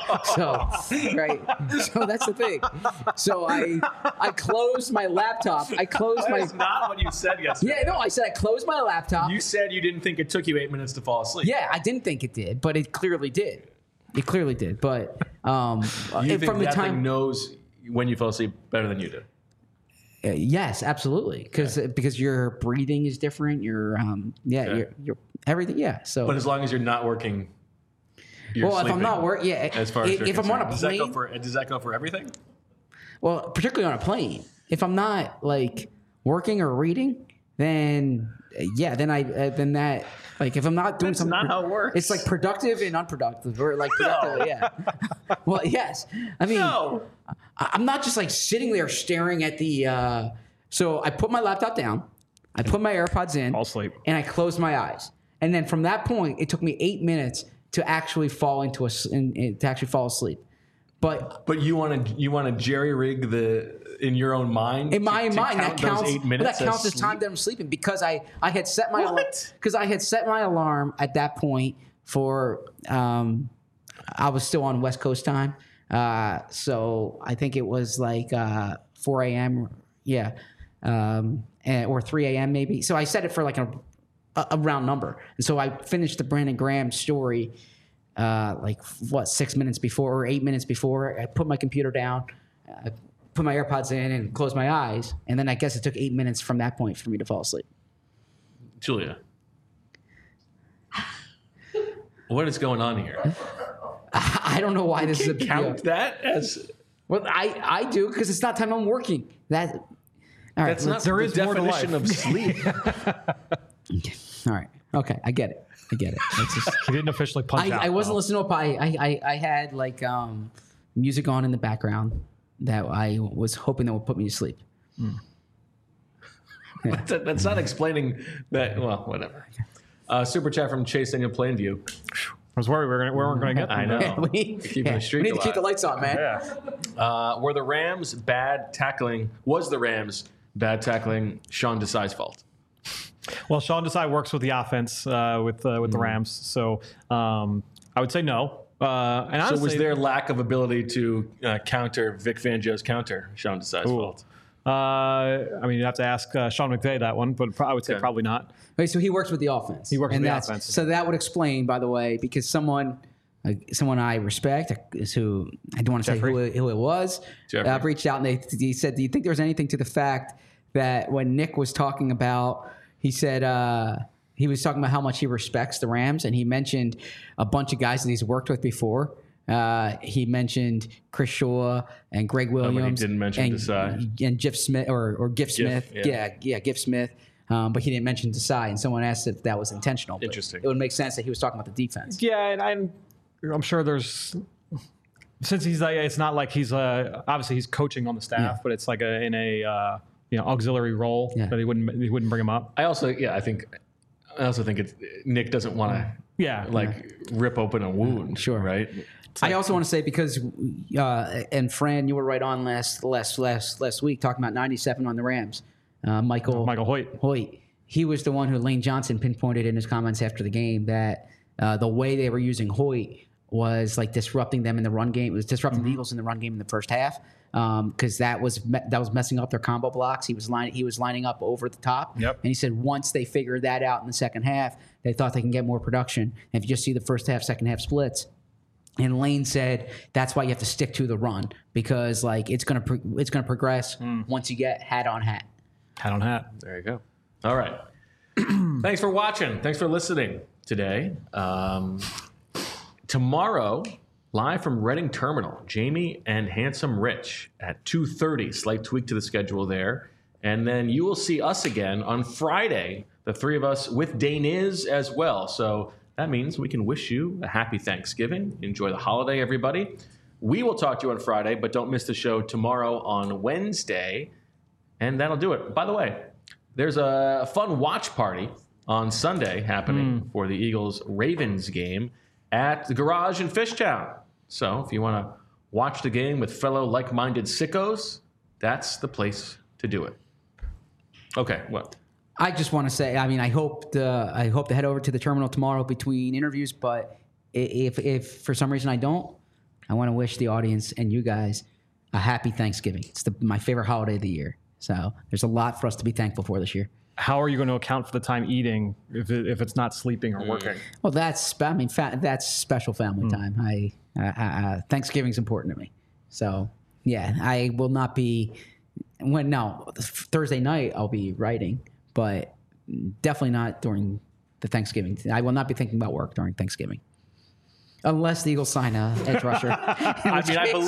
Right. So that's the thing. So I closed my laptop. That's not what you said yesterday. Yeah, no, I said I closed my laptop. You said you didn't think it took you 8 minutes to fall asleep. Yeah, I didn't think it did, but it clearly did. It clearly did, but you think that thing knows when you fell asleep better than you do? Yes, absolutely. Because your breathing is different. Your your everything. Yeah. So, but as long as you're not working, you're if sleeping, I'm not working, As far as if I'm on a plane, does that go for everything? Well, particularly on a plane. If I'm not like working or reading, then that. Like if I'm not doing something, that's not how it works. It's like productive and unproductive, or like productive. Yeah. Well, yes. I mean, I'm not just like sitting there staring at the. So I put my laptop down, I put my AirPods in, I'll sleep, and I closed my eyes. And then from that point, it took me 8 minutes to actually fall fall asleep. But you want to jerry rig in your own mind. In my mind, that counts. 8 minutes That counts as time that I'm sleeping because I had set my alarm, because I had set my alarm at that point for I was still on West Coast time, so I think it was like 4 a.m. Or 3 a.m. maybe. So I set it for like a round number, and so I finished the Brandon Graham story. 6 minutes before or 8 minutes before. I put my computer down, I put my AirPods in and closed my eyes. And then I guess it took 8 minutes from that point for me to fall asleep. Julia, what is going on here? I don't know why this is a big count deal. that as... Well, I do because it's not time I'm working. All right, that's not the definition of sleep. All right. Okay, I get it. It's just, he didn't officially punch out. I wasn't listening to it. I had like music on in the background that I was hoping that would put me to sleep. Yeah. That's not explaining that. Well, whatever. Super chat from Chase Daniel Plainview. I was worried we weren't going to get them. I know. we need to keep the lights on, man. Yeah. Was the Rams bad tackling Sean Desai's fault? Well, Sean Desai works with the offense with the Rams, so I would say no. And honestly, so was their lack of ability to counter Vic Fangio's counter Sean Desai's fault? I mean, you have to ask Sean McVay that one, but I would say probably not. Wait, so he works with the offense. He works with the offense. So that would explain, by the way, because someone I respect, who I don't want to say who it was, reached out and he said, "Do you think there was anything to the fact that when Nick was talking about?" He said he was talking about how much he respects the Rams, and he mentioned a bunch of guys that he's worked with before. He mentioned Chris Shaw and Greg Williams. He didn't mention Desai. And Giff Smith or Giff Smith. Yeah, Giff Smith. But he didn't mention Desai. And someone asked if that was intentional. Interesting. It would make sense that he was talking about the defense. Yeah, and I'm sure there's, since he's like, it's not like he's obviously he's coaching on the staff, but it's like in a auxiliary role that he wouldn't bring him up. I also think it's Nick doesn't want to rip open a wound. Sure. Right. I also want to say, because and Fran, you were right on last week talking about 97 on the Rams. Michael Hoyt. He was the one who Lane Johnson pinpointed in his comments after the game that the way they were using Hoyt was like disrupting them in the run game. It was disrupting the Eagles in the run game in the first half, because that was messing up their combo blocks. He was lining up over the top, and he said once they figured that out in the second half, they thought they can get more production. And if you just see the first half, second half splits. And Lane said that's why you have to stick to the run, because like it's gonna progress once you get hat on hat. Hat on hat. There you go. All right. Thanks for watching. Thanks for listening today. Tomorrow, live from Reading Terminal, Jamie and Handsome Rich at 2:30. Slight tweak to the schedule there. And then you will see us again on Friday, the three of us with Daniz as well. So that means we can wish you a happy Thanksgiving. Enjoy the holiday, everybody. We will talk to you on Friday, but don't miss the show tomorrow on Wednesday. And that'll do it. By the way, there's a fun watch party on Sunday happening for the Eagles-Ravens game at the Garage in Fishtown. So if you want to watch the game with fellow like-minded sickos, that's the place to do it. Okay, what? I just want to say, I mean, I hope to head over to the terminal tomorrow between interviews, but if for some reason I don't, I want to wish the audience and you guys a happy Thanksgiving. It's my favorite holiday of the year. So there's a lot for us to be thankful for this year. How are you going to account for the time eating if it's not sleeping or working? Well, that's special family time. Thanksgiving's important to me. So yeah, I will not be. Thursday night I'll be writing, but definitely not during the Thanksgiving. I will not be thinking about work during Thanksgiving. Unless the Eagles sign a edge rusher. I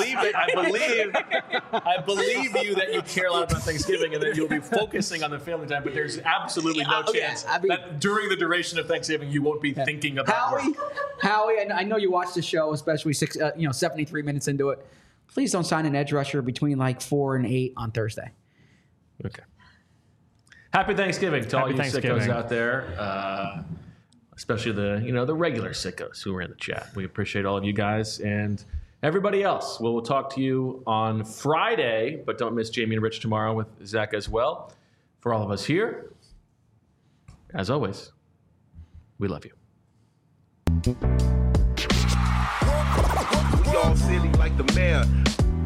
believe you that you care a lot about Thanksgiving and that you'll be focusing on the family time, but there's absolutely no chance that during the duration of Thanksgiving you won't be thinking about Howie, I know you watched the show, especially 73 minutes into it. Please don't sign an edge rusher between like 4 and 8 on Thursday. Okay. Happy Thanksgiving to all you sickos out there. Especially the regular sickos who are in the chat. We appreciate all of you guys and everybody else. We'll talk to you on Friday, but don't miss Jamie and Rich tomorrow with Zach as well. For all of us here, as always, we love you. We all silly like the mayor.